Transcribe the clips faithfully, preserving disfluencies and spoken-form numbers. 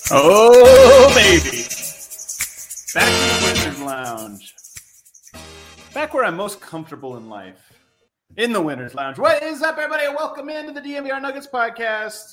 Oh, baby. Back in the Winner's Lounge. Back where I'm most comfortable in life. In the Winner's Lounge. What is up, everybody? Welcome into the D N V R Nuggets podcast.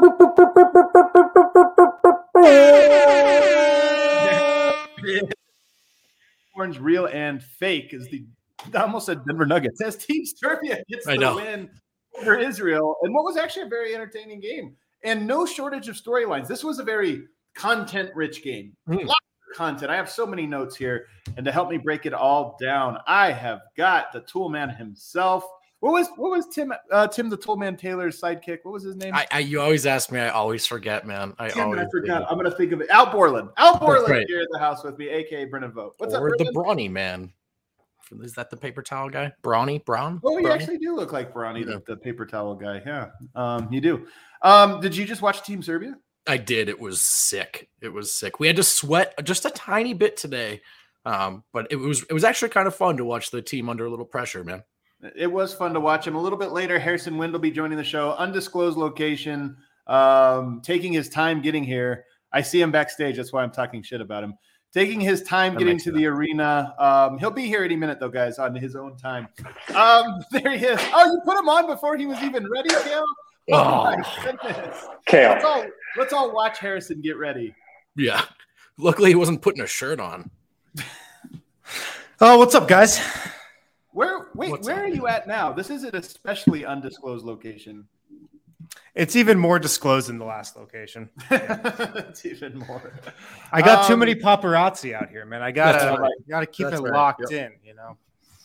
Orange, real, and fake is the, I almost said Denver Nuggets. As Team Serbia gets the win over Israel. And what was actually a very entertaining game. And no shortage of storylines. This was a very content-rich game. Mm. Lots of content. I have so many notes here. And to help me break it all down, I have got the Tool Man himself. What was what was Tim uh, Tim the Tool Man Taylor's sidekick? What was his name? I, I you always ask me. I always forget, man. I Damn, always I forgot. Think. I'm going to think of it. Al Borland. Al Borland right. here at the house with me, a k a. Brennan Vogt. What's or up, Brennan? the Brawny man. Is that the paper towel guy? Brawny? Brown? Oh, you Brawny? actually do look like Brawny, yeah. the, the paper towel guy. Yeah, um, you do. Um, did you just watch Team Serbia? I did. It was sick. It was sick. We had to sweat just a tiny bit today, um, but it was it was actually kind of fun to watch the team under a little pressure, man. It was fun to watch him. A little bit later, Harrison Wind will be joining the show. Undisclosed location, um, taking his time getting here. I see him backstage. That's why I'm talking shit about him. Taking his time that getting to the arena. Um, he'll be here any minute, though, guys, on his own time. Um, there he is. Oh, you put him on before he was even ready, Kale? Oh, oh my goodness. Kale. Let's all, let's all watch Harrison get ready. Yeah. Luckily, he wasn't putting a shirt on. Oh, what's up, guys? Where wait, what's where up? Are you at now? This is an especially undisclosed location. It's even more disclosed in the last location. It's even more. I got um, too many paparazzi out here, man. I gotta right. gotta keep that's it right. locked yep. in, you know.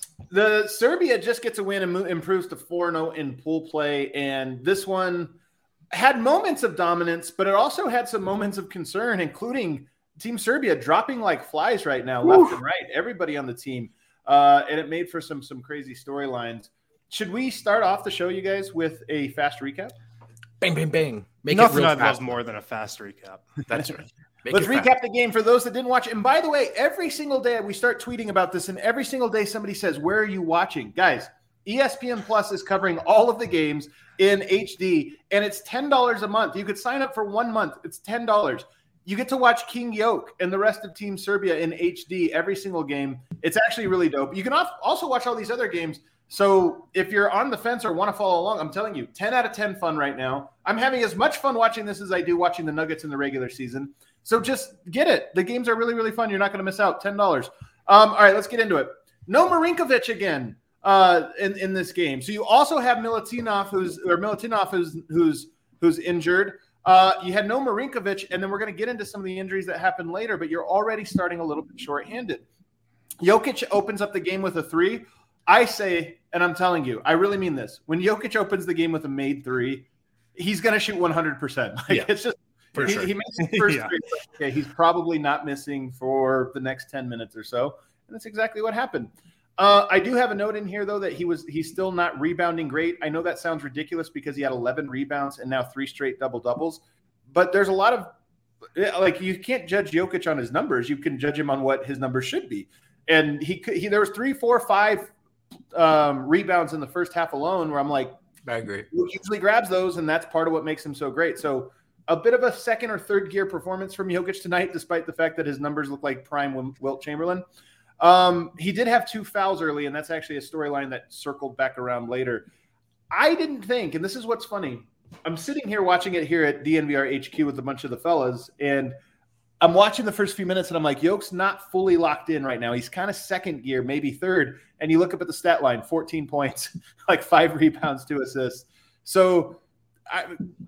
The Serbia just gets a win and improves to four and oh in pool play, and this one had moments of dominance, but it also had some moments of concern, including Team Serbia dropping like flies right now, Woo. left and right. Everybody on the team, uh, and it made for some some crazy storylines. Should we start off the show, you guys, with a fast recap? Bang, bang, bang. Make Nothing it real fast. More than a fast recap. That's right. Make Let's recap fast. the game for those that didn't watch. And by the way, every single day we start tweeting about this, and every single day somebody says, where are you watching? Guys, E S P N Plus is covering all of the games in H D, and it's ten dollars a month. You could sign up for one month. It's ten dollars. You get to watch King Yoke and the rest of Team Serbia in H D every single game. It's actually really dope. You can also watch all these other games. So if you're on the fence or want to follow along, I'm telling you, ten out of ten fun right now. I'm having as much fun watching this as I do watching the Nuggets in the regular season. So just get it. The games are really, really fun. You're not going to miss out. ten dollars. Um, all right, let's get into it. No Marinkovic again uh, in, in this game. So you also have Milutinov, who's or Milutinov, who's who's who's injured. Uh, you had no Marinkovic, and then we're going to get into some of the injuries that happened later, but you're already starting a little bit shorthanded. Jokic opens up the game with a three. I say, and I'm telling you, I really mean this. When Jokic opens the game with a made three, he's going to shoot one hundred percent. Like, yeah, it's just for he, sure. he makes the first yeah. three. Okay, he's probably not missing for the next ten minutes or so, and that's exactly what happened. Uh, I do have a note in here though that he was he's still not rebounding great. I know that sounds ridiculous because he had eleven rebounds and now three straight double doubles, but there's a lot of like you can't judge Jokic on his numbers. You can judge him on what his numbers should be, and he he there was three, four, five. Um, rebounds in the first half alone where I'm like, I agree. He usually grabs those, and that's part of what makes him so great. So a bit of a second or third gear performance from Jokic tonight, despite the fact that his numbers look like prime Wilt Chamberlain. Um, he did have two fouls early, and that's actually a storyline that circled back around later. I didn't think, and this is what's funny, I'm sitting here watching it here at D N V R H Q with a bunch of the fellas, and I'm watching the first few minutes, and I'm like, Yoke's not fully locked in right now. He's kind of second gear, maybe third. And you look up at the stat line, fourteen points, like five rebounds, two assists. So I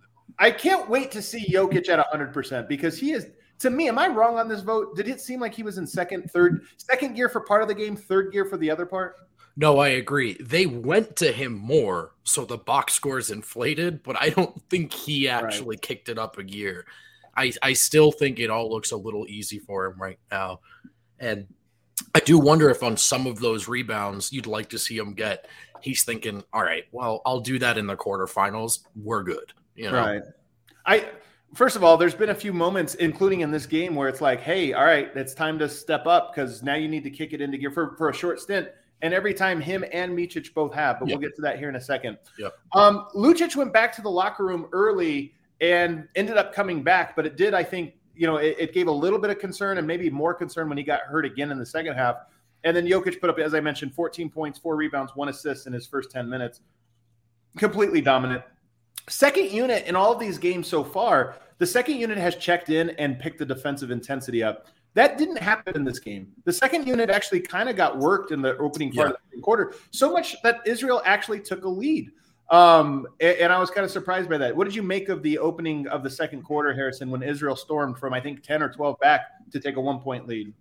I can't wait to see Jokic at one hundred percent because he is, to me, am I wrong on this vote? Did it seem like he was in second, third, second gear for part of the game, third gear for the other part? No, I agree. They went to him more, so the box scores inflated, but I don't think he actually right. kicked it up a gear. I, I still think it all looks a little easy for him right now. And I do wonder if on some of those rebounds you'd like to see him get, he's thinking, all right, well, I'll do that in the quarterfinals. We're good. You know? Right. I first of all, there's been a few moments, including in this game, where it's like, hey, all right, it's time to step up because now you need to kick it into gear for, for a short stint. And every time him and Micic both have, but yep. we'll get to that here in a second. Yep. Um, Lucic went back to the locker room early and ended up coming back, but it did, I think, you know, it, it gave a little bit of concern and maybe more concern when he got hurt again in the second half. And then Jokic put up, as I mentioned, fourteen points, four rebounds, one assist in his first ten minutes. Completely dominant. Second unit in all of these games so far, the second unit has checked in and picked the defensive intensity up. That didn't happen in this game. The second unit actually kind of got worked in the opening part yeah. of the quarter, so much that Israel actually took a lead. Um, and, and I was kind of surprised by that. What did you make of the opening of the second quarter, Harrison, when Israel stormed from, I think, ten or twelve back to take a one-point lead?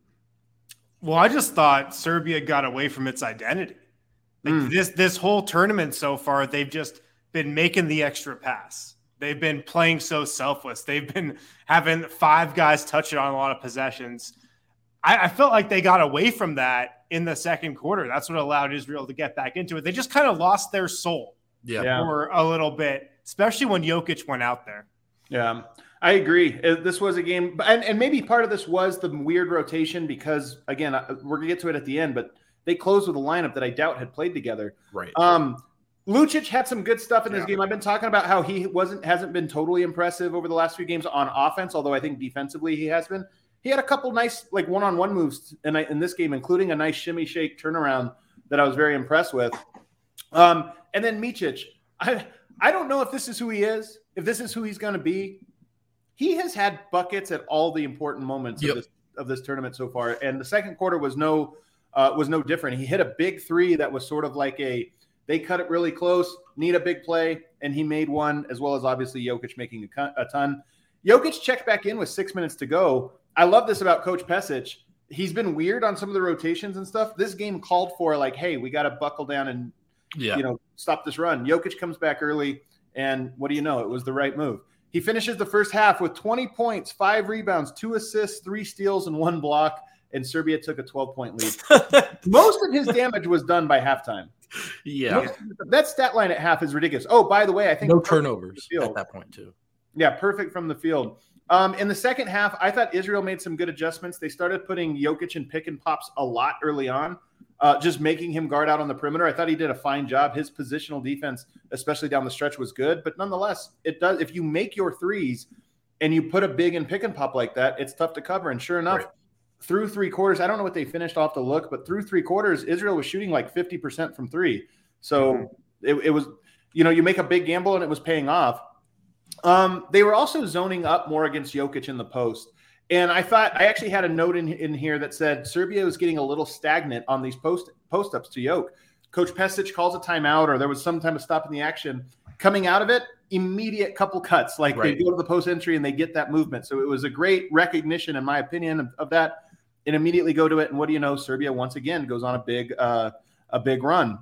Well, I just thought Serbia got away from its identity. Like mm. This this whole tournament so far, they've just been making the extra pass. They've been playing so selfless. They've been having five guys touch it on a lot of possessions. I, I felt like they got away from that in the second quarter. That's what allowed Israel to get back into it. They just kind of lost their soul yeah. for a little bit, especially when Jokic went out there. Yeah, I agree. This was a game, and, and maybe part of this was the weird rotation because, again, we're going to get to it at the end, but they closed with a lineup that I doubt had played together. Right. Um, Lucic had some good stuff in this yeah. game. I've been talking about how he wasn't hasn't been totally impressive over the last few games on offense, although I think defensively he has been. He had a couple nice like one-on-one moves in, in this game, including a nice shimmy shake turnaround that I was very impressed with. Um, and then Micic, I I don't know if this is who he is, if this is who he's going to be. He has had buckets at all the important moments yep. of this of this tournament so far, and the second quarter was no uh, was no different. He hit a big three that was sort of like a they cut it really close, need a big play, and he made one, as well as obviously Jokic making a, a ton. Jokic checked back in with six minutes to go. I love this about Coach Pesic. He's been weird on some of the rotations and stuff. This game called for like, hey, we got to buckle down and yeah. you know stop this run. Jokic comes back early, and what do you know? It was the right move. He finishes the first half with twenty points, five rebounds, two assists, three steals, and one block, and Serbia took a twelve-point lead. Most of his damage was done by halftime. Yeah. Most, that stat line at half is ridiculous. Oh, by the way, I think no turnovers at that point too. Yeah, perfect from the field. Um, in the second half, I thought Israel made some good adjustments. They started putting Jokic in pick and pops a lot early on, uh, just making him guard out on the perimeter. I thought he did a fine job. His positional defense, especially down the stretch, was good. But nonetheless, it does. If you make your threes and you put a big in pick and pop like that, it's tough to cover. And sure enough, right. through three quarters, I don't know what they finished off to look, but through three quarters, Israel was shooting like fifty percent from three. So mm-hmm. it, it was, you know, you make a big gamble and it was paying off. Um, they were also zoning up more against Jokic in the post. And I thought I actually had a note in, in here that said Serbia was getting a little stagnant on these post post ups to Jokic. Coach Pesic calls a timeout, or there was some time of stop in the action. Coming out of it, immediate couple cuts. Like right. they go to the post entry and they get that movement. So it was a great recognition, in my opinion, of, of that. And immediately go to it. And what do you know? Serbia once again goes on a big uh, a big run.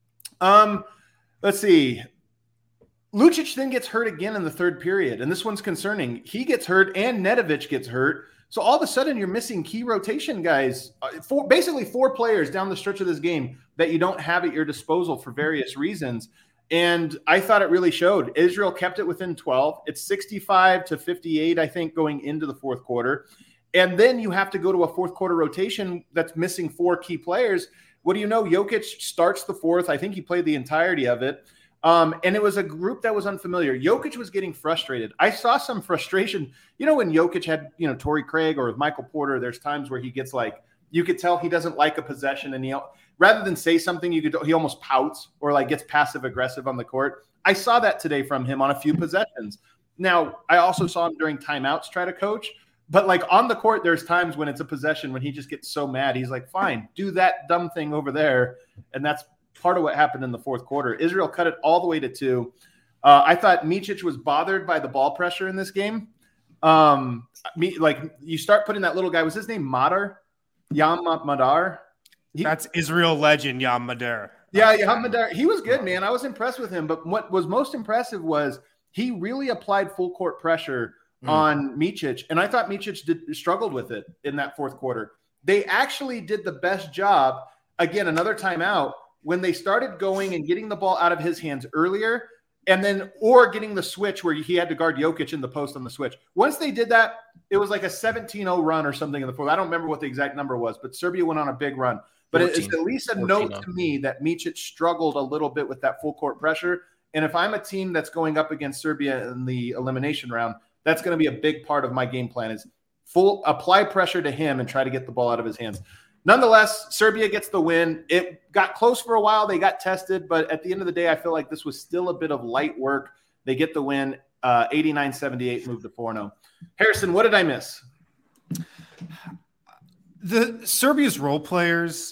Um, let's see. Lucic then gets hurt again in the third period, and this one's concerning. He gets hurt, and Nedovic gets hurt. So all of a sudden, you're missing key rotation guys. Uh, four, basically, four players down the stretch of this game that you don't have at your disposal for various reasons. And I thought it really showed. Israel kept it within twelve. It's sixty-five to fifty-eight, I think, going into the fourth quarter. And then you have to go to a fourth quarter rotation that's missing four key players. What do you know? Jokic starts the fourth. I think he played the entirety of it. Um, and it was a group that was unfamiliar. Jokic was getting frustrated. I saw some frustration. You know, when Jokic had, you know, Torrey Craig or with Michael Porter, there's times where he gets like, you could tell he doesn't like a possession, and he, rather than say something, you could, he almost pouts or like gets passive aggressive on the court. I saw that today from him on a few possessions. Now, I also saw him during timeouts try to coach, but like on the court, there's times when it's a possession when he just gets so mad. He's like, fine, do that dumb thing over there. And that's part of what happened in the fourth quarter. Israel cut it all the way to two. Uh, I thought Micic was bothered by the ball pressure in this game. Um, me, like you start putting that little guy, was his name Madar? Yam Madar? He, That's Israel legend, Yam Madar. Yeah, Yam Madar. He was good, man. I was impressed with him. But what was most impressive was he really applied full court pressure mm. on Micic. And I thought Micic did, struggled with it in that fourth quarter. They actually did the best job. Again, another timeout. When they started going and getting the ball out of his hands earlier, and then or getting the switch where he had to guard Jokic in the post on the switch. Once they did that, it was like a seventeen oh run or something in the fourth. I don't remember what the exact number was, but Serbia went on a big run. But it's at least a note to me that Micic struggled a little bit with that full court pressure. And if I'm a team that's going up against Serbia in the elimination round, that's going to be a big part of my game plan is full apply pressure to him and try to get the ball out of his hands. Nonetheless, Serbia gets the win. It got close for a while. They got tested, but at the end of the day, I feel like this was still a bit of light work. They get the win, uh, eighty-nine seventy-eight, move to four and oh. Harrison, what did I miss? The Serbia's role players,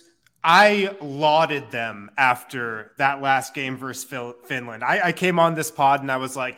I lauded them after that last game versus Finland. I, I came on this pod and I was like,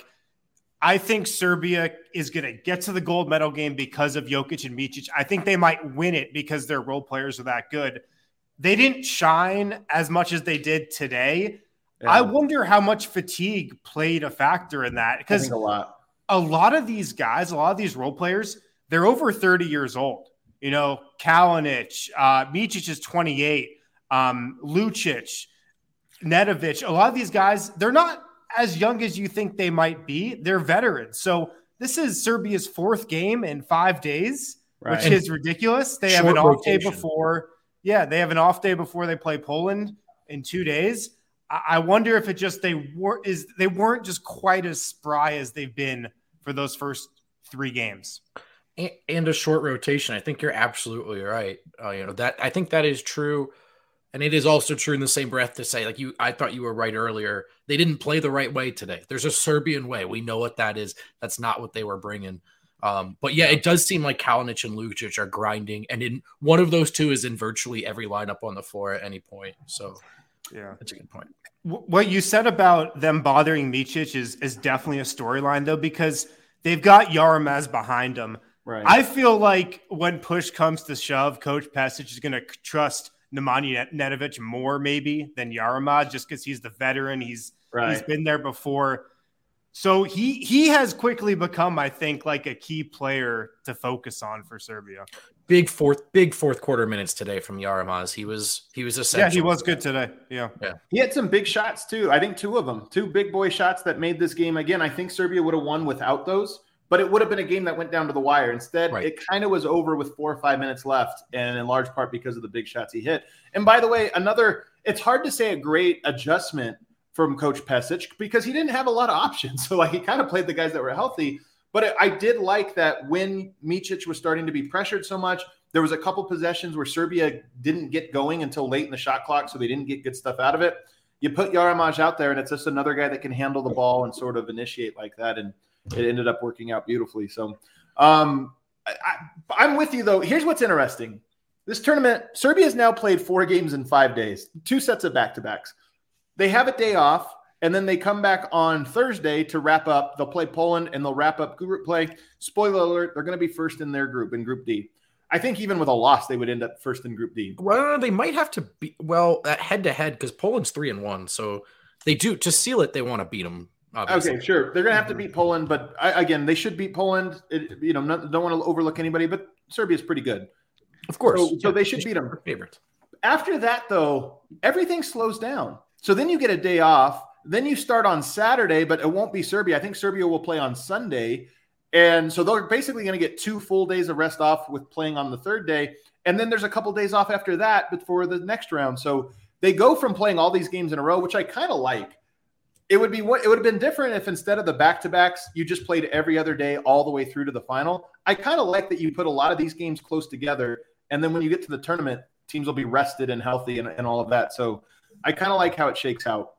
I think Serbia is going to get to the gold medal game because of Jokic and Micic. I think they might win it because their role players are that good. They didn't shine as much as they did today. Yeah. I wonder how much fatigue played a factor in that, because a lot. a lot of these guys, a lot of these role players, they're over thirty years old. You know, Kalinic, uh, Micic is twenty-eight, um, Lucic, Nedovic. A lot of these guys, they're not as young as you think they might be. They're veterans. So this is Serbia's fourth game in five days, right, which is ridiculous. They Short have an off rotation. day before. Yeah, they have an off day before they play Poland in two days. I, I wonder if it just they were is they weren't just quite as spry as they've been for those first three games. And, and a short rotation. I think you're absolutely right. Uh, you know that I think that is true. And it is also true in the same breath to say, like you, I thought you were right earlier. They didn't play the right way today. There's a Serbian way. We know what that is. That's not what they were bringing. Um, but yeah, it does seem like Kalinic and Lucic are grinding. And in one of those two is in virtually every lineup on the floor at any point. So yeah, that's a good point. What you said about them bothering Micic is, is definitely a storyline though, because they've got Yaramaz behind them. Right. I feel like when push comes to shove, Coach Pesic is going to trust Nemanja Nedovic more maybe than Yaramaz, just because he's the veteran. He's right. he's been there before. So he he has quickly become, I think, like a key player to focus on for Serbia. Big fourth big fourth quarter minutes today from Yaramaz. He was he was essential. Yeah, he was good today. Yeah. Yeah. He had some big shots too. I think two of them, two big boy shots that made this game. Again, I think Serbia would have won without those. But it would have been a game that went down to the wire. Instead, right. it kind of was over with four or five minutes left, and in large part because of the big shots he hit. And by the way, another – it's hard to say a great adjustment from Coach Pesic because he didn't have a lot of options. So, like, he kind of played the guys that were healthy. But it, I did like that when Micic was starting to be pressured so much, there was a couple possessions where Serbia didn't get going until late in the shot clock, so they didn't get good stuff out of it. You put Yaramaz out there, and it's just another guy that can handle the ball and sort of initiate like that, and – it ended up working out beautifully. So um, I, I'm with you, though. Here's what's interesting. This tournament, Serbia has now played four games in five days, two sets of back-to-backs. They have a day off, and then they come back on Thursday to wrap up. They'll play Poland, and they'll wrap up group play. Spoiler alert, they're going to be first in their group, in Group D. I think even with a loss, they would end up first in Group D. Well, they might have to be – well, head-to-head, because Poland's three and one. So they do – to seal it, they want to beat them. Obviously. Okay, sure. They're going to have to beat Poland, but I, again, they should beat Poland. It, you know, not, don't want to overlook anybody, but Serbia's pretty good. Of course. So, so they should beat them. Favorite. After that, though, everything slows down. So then you get a day off. Then you start on Saturday, but it won't be Serbia. I think Serbia will play on Sunday. And so they're basically going to get two full days of rest off with playing on the third day. And then there's a couple days off after that before the next round. So they go from playing all these games in a row, which I kind of like. It would be what it would have been different if instead of the back-to-backs, you just played every other day all the way through to the final. I kind of like that you put a lot of these games close together, and then when you get to the tournament, teams will be rested and healthy and, and all of that. So I kind of like how it shakes out.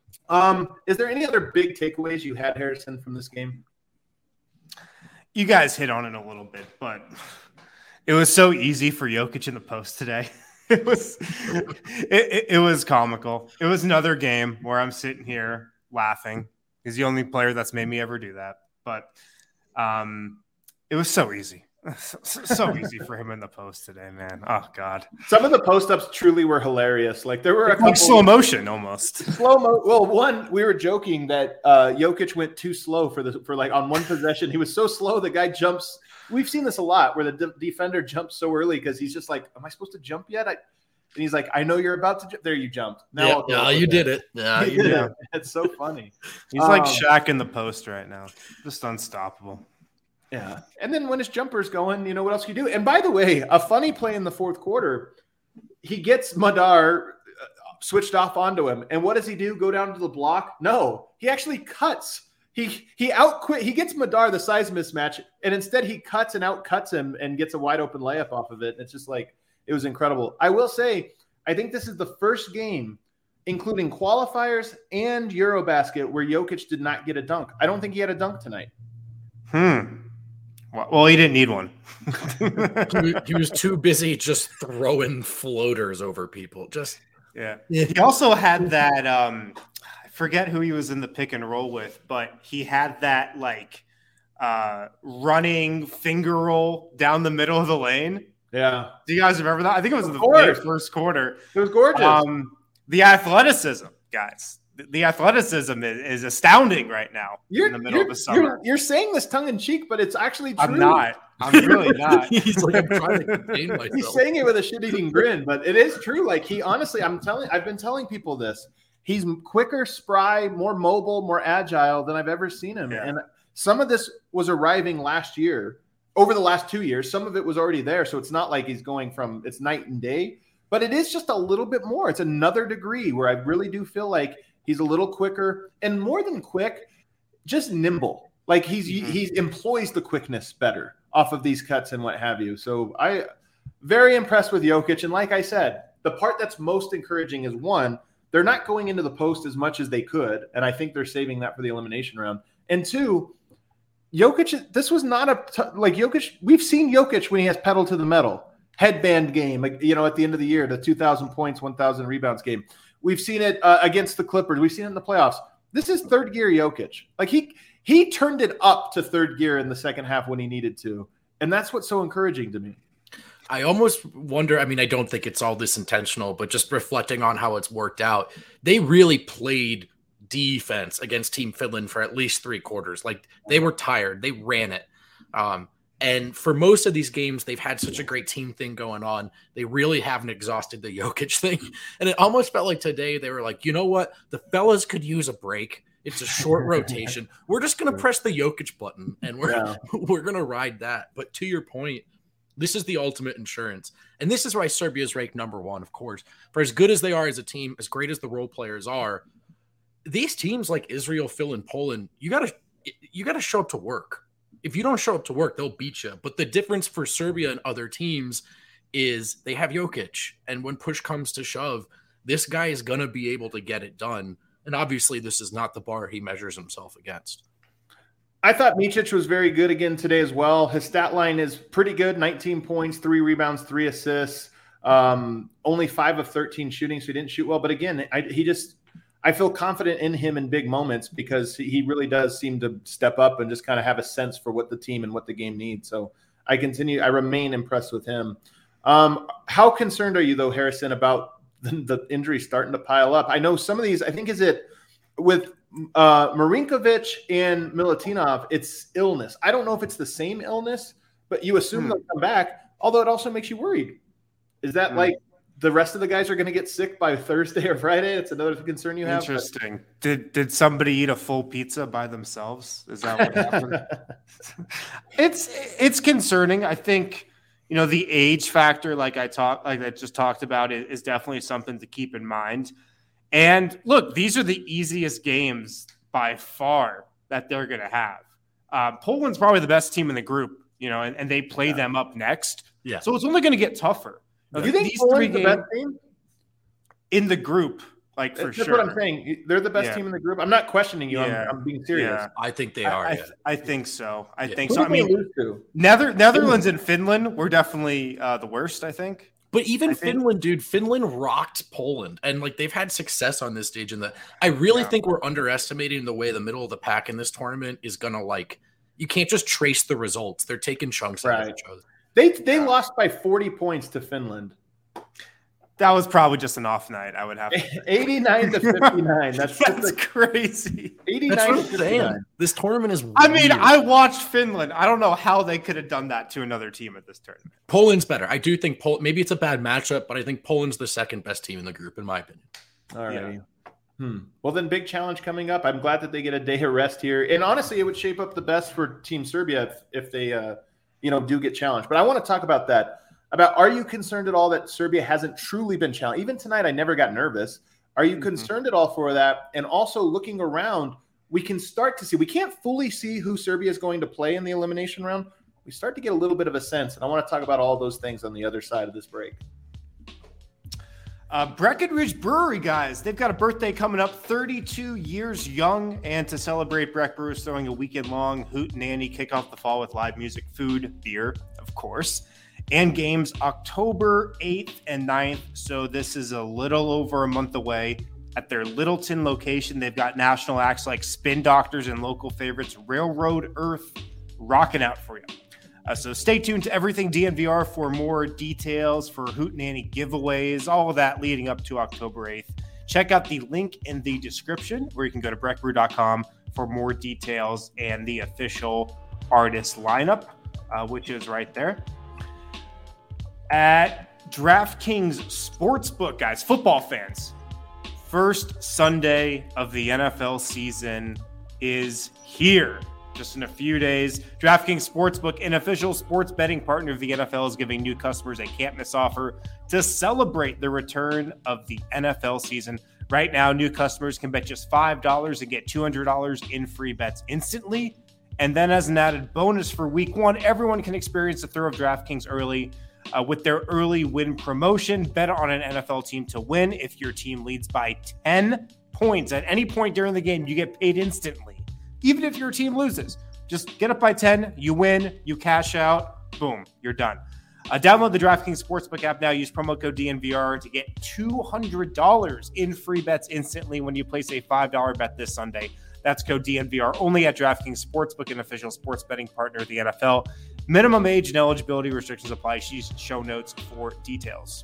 Um, is there any other big takeaways you had, Harrison, from this game? You guys hit on it a little bit, but it was so easy for Jokic in the post today. It was it, it, it was comical. It was another game where I'm sitting here laughing. He's the only player that's made me ever do that. But um, it was so easy. So, so easy for him in the post today, man. Oh, God. Some of the post-ups truly were hilarious. Like, there were a like couple... slow motion, almost. Slow mo. Well, one, we were joking that uh, Jokic went too slow for, the, for, like, on one possession. He was so slow, the guy jumps... We've seen this a lot where the de- defender jumps so early because he's just like, am I supposed to jump yet? I, and he's like, I know you're about to jump. There you jumped. Now yeah, no, you did it. Yeah, you did it. It's so funny. He's um, like Shaq in the post right now. Just unstoppable. Yeah. And then when his jumper's going, you know, what else can you do? And by the way, a funny play in the fourth quarter, he gets Madar switched off onto him. And what does he do? Go down to the block? No, he actually cuts he he outquit. He gets Madar the size mismatch, and instead he cuts and outcuts him and gets a wide open layup off of it. It's just like it was incredible. I will say, I think this is the first game, including qualifiers and Eurobasket, where Jokic did not get a dunk. I don't think he had a dunk tonight. Hmm. Well, he didn't need one. he, he was too busy just throwing floaters over people. Just yeah. yeah. He also had that. Um, I forget who he was in the pick and roll with, but he had that like uh, running finger roll down the middle of the lane. Yeah. Do you guys remember that? I think it was in the very first quarter. It was gorgeous. Um, the athleticism, guys. The athleticism is, is astounding right now you're, in the middle of the summer. You're, you're saying this tongue in cheek, but it's actually true. I'm not. I'm really not. He's like, I'm trying to contain myself. He's saying it with a shit-eating grin, but it is true. Like he honestly, I'm telling, I've been telling people this. He's quicker, spry, more mobile, more agile than I've ever seen him. Yeah. And some of this was arriving last year, over the last two years. Some of it was already there, so it's not like he's going from it's night and day. But it is just a little bit more. It's another degree where I really do feel like he's a little quicker and more than quick, just nimble. Like he's mm-hmm. he employs the quickness better off of these cuts and what have you. So I very impressed with Jokic. And like I said, the part that's most encouraging is one, they're not going into the post as much as they could. And I think they're saving that for the elimination round. And two, Jokic, this was not a t- like Jokic. We've seen Jokic when he has pedal to the metal. Headband game, you know, at the end of the year, the two thousand points, one thousand rebounds game. We've seen it uh, against the Clippers. We've seen it in the playoffs. This is third gear Jokic. Like he he turned it up to third gear in the second half when he needed to. And that's what's so encouraging to me. I almost wonder, I mean, I don't think it's all this intentional, but just reflecting on how it's worked out, they really played defense against Team Finland for at least three quarters. Like they were tired. They ran it. Um, And for most of these games, they've had such a great team thing going on. They really haven't exhausted the Jokic thing. And it almost felt like today they were like, you know what? The fellas could use a break. It's a short rotation. We're just going to press the Jokic button, and we're yeah. we're going to ride that. But to your point, this is the ultimate insurance. And this is why Serbia is ranked number one, of course. For as good as they are as a team, as great as the role players are, these teams like Israel, Phil, and Poland, you got to you got to show up to work. If you don't show up to work, they'll beat you. But the difference for Serbia and other teams is they have Jokic. And when push comes to shove, this guy is going to be able to get it done. And obviously, this is not the bar he measures himself against. I thought Micic was very good again today as well. His stat line is pretty good. nineteen points, three rebounds, three assists. Um, only five of thirteen shooting, so he didn't shoot well. But again, I, he just – I feel confident in him in big moments because he really does seem to step up and just kind of have a sense for what the team and what the game needs. So I continue, I remain impressed with him. Um, how concerned are you though, Harrison, about the, the injuries starting to pile up? I know some of these, I think is it with uh, Marinkovic and Milutinov, it's illness. I don't know if it's the same illness, but you assume hmm. they'll come back, although it also makes you worried. Is that hmm. like, the rest of the guys are going to get sick by Thursday or Friday? It's another concern you have. Interesting. But... Did did somebody eat a full pizza by themselves? Is that what happened? it's it's concerning. I think you know the age factor, like I talked, like I just talked about, is, is definitely something to keep in mind. And look, these are the easiest games by far that they're going to have. Uh, Poland's probably the best team in the group, you know, and, and they play yeah. them up next. Yeah. So it's only going to get tougher. Do you think these three games the best team in the group, like for That's sure? That's what I'm saying. They're the best yeah. team in the group. I'm not questioning you. Yeah. I'm, I'm being serious. Yeah. I think they are. I, yeah. I, I think so. I yeah. think Who so. I mean, Nether, Netherlands and Finland were definitely uh, the worst. I think. But even I Finland, think. dude, Finland rocked Poland, and like they've had success on this stage. And the I really yeah. think we're underestimating the way the middle of the pack in this tournament is gonna like. You can't just trace the results. They're taking chunks right. out of each other. They they yeah. lost by forty points to Finland. That was probably just an off night. I would have to eighty-nine to fifty-nine. That's, That's crazy. eighty-nine That's to fifty-nine. This tournament is weird. I mean, I watched Finland. I don't know how they could have done that to another team at this tournament. Poland's better. I do think Pol- maybe it's a bad matchup, but I think Poland's the second best team in the group, in my opinion. All right. Yeah. Hmm. Well, then big challenge coming up. I'm glad that they get a day of rest here. And honestly, it would shape up the best for Team Serbia if, if they, uh, you know, do get challenged. But I want to talk about that. About are you concerned at all that Serbia hasn't truly been challenged? Even tonight, I never got nervous. Are you mm-hmm. concerned at all for that? And also looking around, we can start to see, we can't fully see who Serbia is going to play in the elimination round. We start to get a little bit of a sense, and I want to talk about all those things on the other side of this break. Uh, Breckenridge Brewery, guys, they've got a birthday coming up, thirty-two years young. And to celebrate, Breck Brew is throwing a weekend-long hootenanny, kick off the fall with live music, food, beer, of course, and games October eighth and ninth. So this is a little over a month away. At their Littleton location, they've got national acts like Spin Doctors and local favorites Railroad Earth rocking out for you. Uh, so stay tuned to Everything D N V R for more details, for hootenanny giveaways, all of that leading up to October eighth. Check out the link in the description where you can go to breck brew dot com for more details and the official artist lineup, uh, which is right there. At DraftKings Sportsbook, guys, football fans, first Sunday of the N F L season is here. Just in a few days, DraftKings Sportsbook, an official sports betting partner of the N F L, is giving new customers a can't-miss offer to celebrate the return of the N F L season. Right now, new customers can bet just five dollars and get two hundred dollars in free bets instantly. And then as an added bonus for week one, everyone can experience the thrill of DraftKings early uh, with their early win promotion. Bet on an N F L team to win. If your team leads by ten points at any point during the game, you get paid instantly. Even if your team loses, just get up by ten, you win, you cash out, boom, you're done. Uh, download the DraftKings Sportsbook app now. Use promo code D N V R to get two hundred dollars in free bets instantly when you place a five dollars bet this Sunday. That's code D N V R only at DraftKings Sportsbook, an official sports betting partner of the N F L. Minimum age and eligibility restrictions apply. See show notes for details.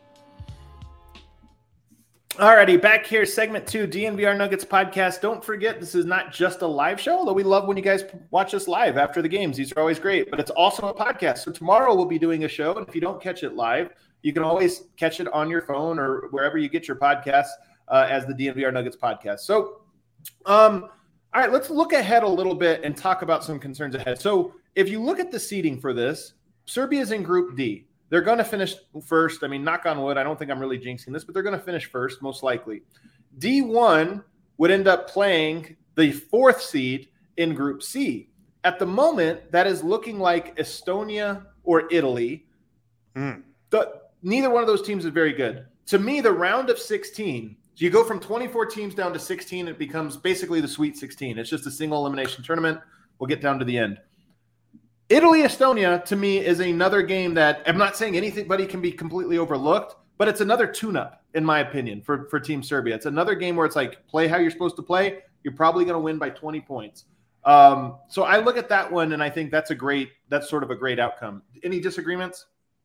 Alrighty, back here, segment two, D N V R Nuggets podcast. Don't forget, this is not just a live show, although we love when you guys watch us live after the games. These are always great, but it's also a podcast. So tomorrow we'll be doing a show, and if you don't catch it live, you can always catch it on your phone or wherever you get your podcasts uh, as the D N V R Nuggets podcast. So, um, all right, let's look ahead a little bit and talk about some concerns ahead. So if you look at the seeding for this, Serbia's in Group D. They're going to finish first. I mean, knock on wood, I don't think I'm really jinxing this, but they're going to finish first, most likely. D one would end up playing the fourth seed in Group C. At the moment, that is looking like Estonia or Italy. Mm. The, neither one of those teams is very good. To me, the round of sixteen, so you go from twenty-four teams down to sixteen, it becomes basically the Sweet sixteen. It's just a single elimination tournament. We'll get down to the end. Italy-Estonia, to me, is another game that I'm not saying anybody can be completely overlooked, but it's another tune-up, in my opinion, for, for Team Serbia. It's another game where it's like, play how you're supposed to play. You're probably going to win by twenty points. Um, so I look at that one, and I think that's a great, that's sort of a great outcome. Any disagreements?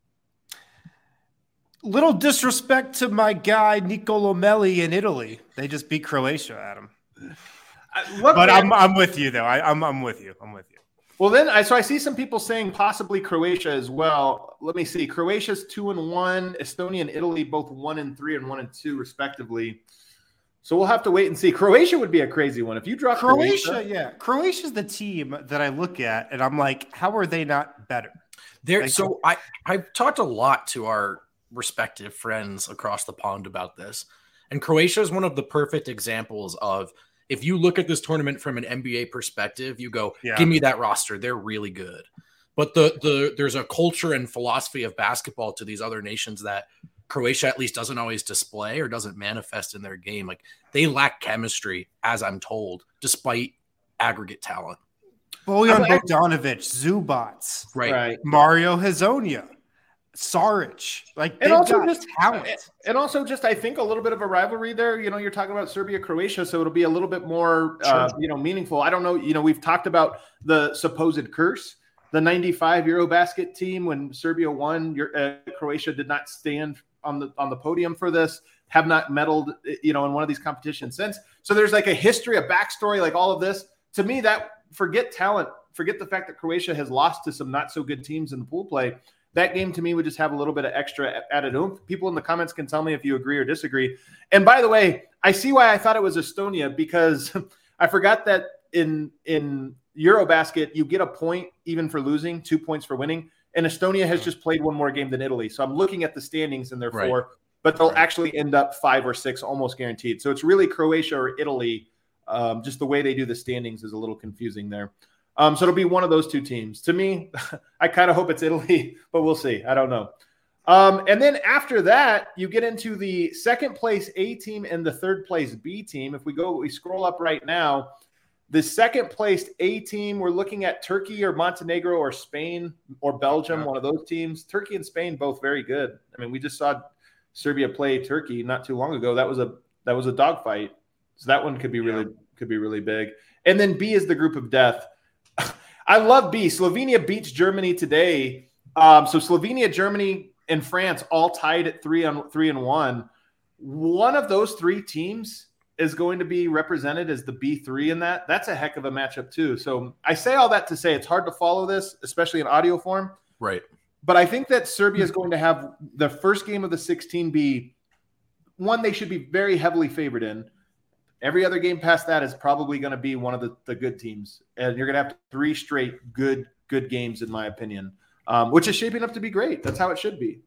Little disrespect to my guy, Nicolo Melli in Italy. They just beat Croatia, Adam. Uh, but I'm, I'm with you, though. I, I'm, I'm with you. I'm with you. Well, then, I so I see some people saying possibly Croatia as well. Let me see. Croatia's two and one. Estonia and Italy both one and three and one and two, respectively. So we'll have to wait and see. Croatia would be a crazy one if you drop Croatia. Croatia, yeah, Croatia's the team that I look at, and I'm like, how are they not better? There. Like, so I I've talked a lot to our respective friends across the pond about this, and Croatia is one of the perfect examples of. If you look at this tournament from an N B A perspective, you go, yeah. Give me that roster. They're really good. But the the there's a culture and philosophy of basketball to these other nations that Croatia at least doesn't always display or doesn't manifest in their game. Like they lack chemistry, as I'm told, despite aggregate talent. Bojan Bogdanovic, Zubats, right. right. Mario Hezonja. Saric, like and also got just talent, and also just I think a little bit of a rivalry there. You know, you're talking about Serbia, Croatia, so it'll be a little bit more, sure. uh, you know, meaningful. I don't know. You know, we've talked about the supposed curse, the ninety-five Eurobasket team when Serbia won. Your, uh, Croatia did not stand on the on the podium for this. Have not medaled, you know, in one of these competitions since. So there's like a history, a backstory, like all of this. To me, that forget talent, forget the fact that Croatia has lost to some not so good teams in the pool play. That game to me would just have a little bit of extra added oomph. People in the comments can tell me if you agree or disagree. And by the way, I see why I thought it was Estonia because I forgot that in in Eurobasket, you get a point even for losing, two points for winning. And Estonia has just played one more game than Italy. So I'm looking at the standings and they're right. four, but they'll right. actually end up five or six, almost guaranteed. So it's really Croatia or Italy Um, just the way they do the standings is a little confusing there. Um, so it'll be one of those two teams. To me, I kind of hope it's Italy, but we'll see. I don't know. Um, and then after that, you get into the second place A team and the third place B team. If we go, we scroll up right now, the second placed A team, we're looking at Turkey or Montenegro or Spain or Belgium, yeah. one of those teams. Turkey and Spain, both very good. I mean, we just saw Serbia play Turkey not too long ago. That was a that was a dogfight. So that one could be really yeah. could be really big. And then B is the group of death. I love B. Slovenia beats Germany today. Um, so Slovenia, Germany, and France all tied at three on three and one. One of those three teams is going to be represented as the B three in that. That's a heck of a matchup too. So I say all that to say it's hard to follow this, especially in audio form. Right. But I think that Serbia is going to have the first game of the sixteen be one they should be very heavily favored in. Every other game past that is probably going to be one of the, the good teams. And you're going to have three straight good, good games, in my opinion, um, which is shaping up to be great. That's how it should be.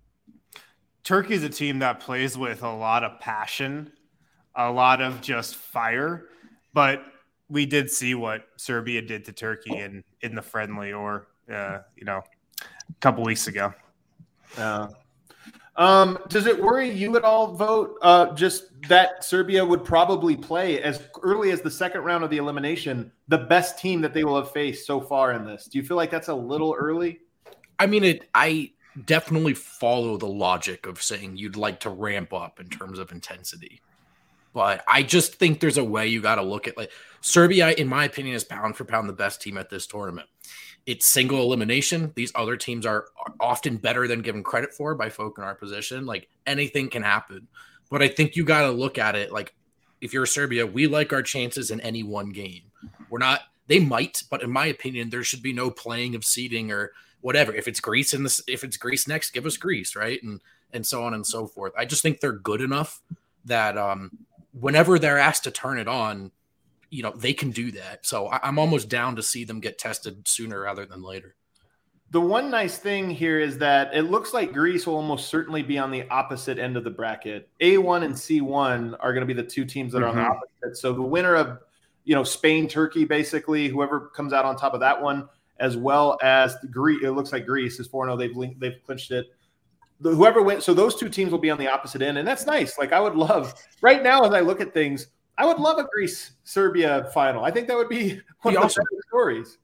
Turkey is a team that plays with a lot of passion, a lot of just fire. But we did see what Serbia did to Turkey in, in the friendly or, uh, you know, a couple weeks ago. Uh, um, does it worry you at all, Vote, uh, just that Serbia would probably play as early as the second round of the elimination, the best team that they will have faced so far in this? Do you feel like that's a little early? I mean, it. I definitely follow the logic of saying you'd like to ramp up in terms of intensity. But I just think there's a way you got to look at, like, Serbia, in my opinion, is pound for pound the best team at this tournament. It's single elimination. These other teams are often better than given credit for by folk in our position. Like, anything can happen. But I think you got to look at it like, if you're Serbia, we like our chances in any one game. We're not, they might, but in my opinion, there should be no playing of seeding or whatever. If it's Greece in this, if it's Greece next, give us Greece, right? And and so on and so forth. I just think they're good enough that um, whenever they're asked to turn it on, you know, they can do that. So I, I'm almost down to see them get tested sooner rather than later. The one nice thing here is that it looks like Greece will almost certainly be on the opposite end of the bracket. A one and C one are going to be the two teams that are mm-hmm. on the opposite. So the winner of, you know, Spain, Turkey, basically, whoever comes out on top of that one, as well as the Greece, it looks like Greece is four and oh. They've linked, they've clinched it. The, whoever wins, so those two teams will be on the opposite end, and that's nice. Like, I would love right now as I look at things, I would love a Greece-Serbia final. I think that would be one be of awesome. the better stories.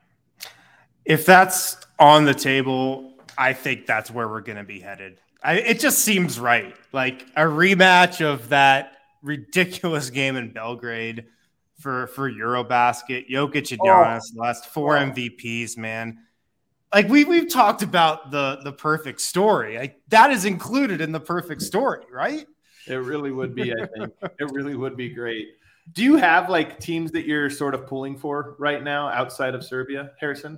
If that's on the table, I think that's where we're going to be headed. I, it just seems right. Like a rematch of that ridiculous game in Belgrade for, for Eurobasket. Jokic and Giannis, oh. the last four M V Ps, man. Like we, we've talked about the, the perfect story. Like, that is included in the perfect story, right? It really would be, I think. It really would be great. Do you have, like, teams that you're sort of pulling for right now outside of Serbia, Harrison?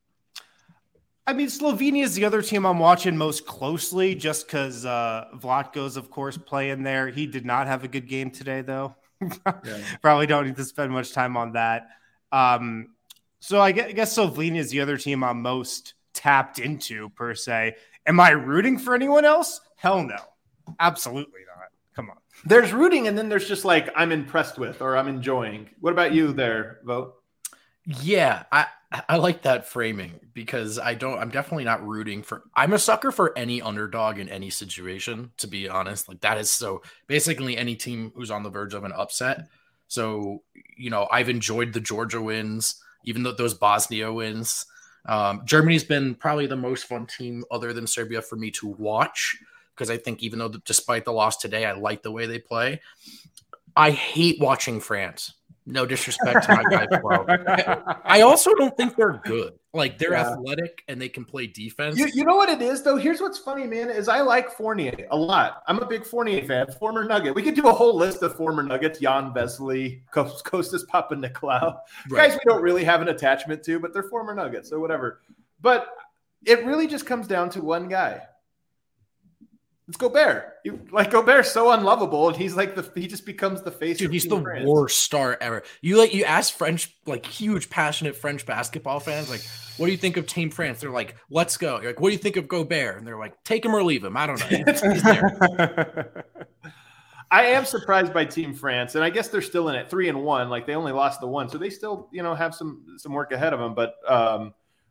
I mean, Slovenia is the other team I'm watching most closely just because uh, Vlatko's, of course, playing there. He did not have a good game today, though. yeah. Probably don't need to spend much time on that. Um, so I guess, I guess Slovenia is the other team I'm most tapped into, per se. Am I rooting for anyone else? Hell no. Absolutely not. Come on. There's rooting, and then there's just like I'm impressed with or I'm enjoying. What about you there, Vote? Yeah, I I like that framing because I don't. I'm definitely not rooting for. I'm a sucker for any underdog in any situation. To be honest, like that is so basically any team who's on the verge of an upset. So you know, I've enjoyed the Georgia wins, even though those Bosnia wins. Um, Germany's been probably the most fun team other than Serbia for me to watch. Because I think even though the, despite the loss today, I like the way they play. I hate watching France. No disrespect to my guy, Flo. I also don't think they're good. Like, they're yeah. athletic and they can play defense. You, you know what it is, though? Here's what's funny, man, is I like Fournier a lot. I'm a big Fournier fan, former Nugget. We could do a whole list of former Nuggets, Jan Vesely, Kostas Papanikolaou. Right. Guys we don't really have an attachment to, but they're former Nuggets, so whatever. But it really just comes down to one guy. It's Gobert. You, like Gobert's so unlovable, and he's like the he just becomes the face. Dude, he's the France. worst star ever. You like you ask French, like huge, passionate French basketball fans, like, what do you think of Team France? They're like, let's go. You're like, what do you think of Gobert? And they're like, take him or leave him. I don't know. He's there. I am surprised by Team France, and I guess they're still in it, three and one. Like they only lost the one, so they still, you know, have some some work ahead of them. But um,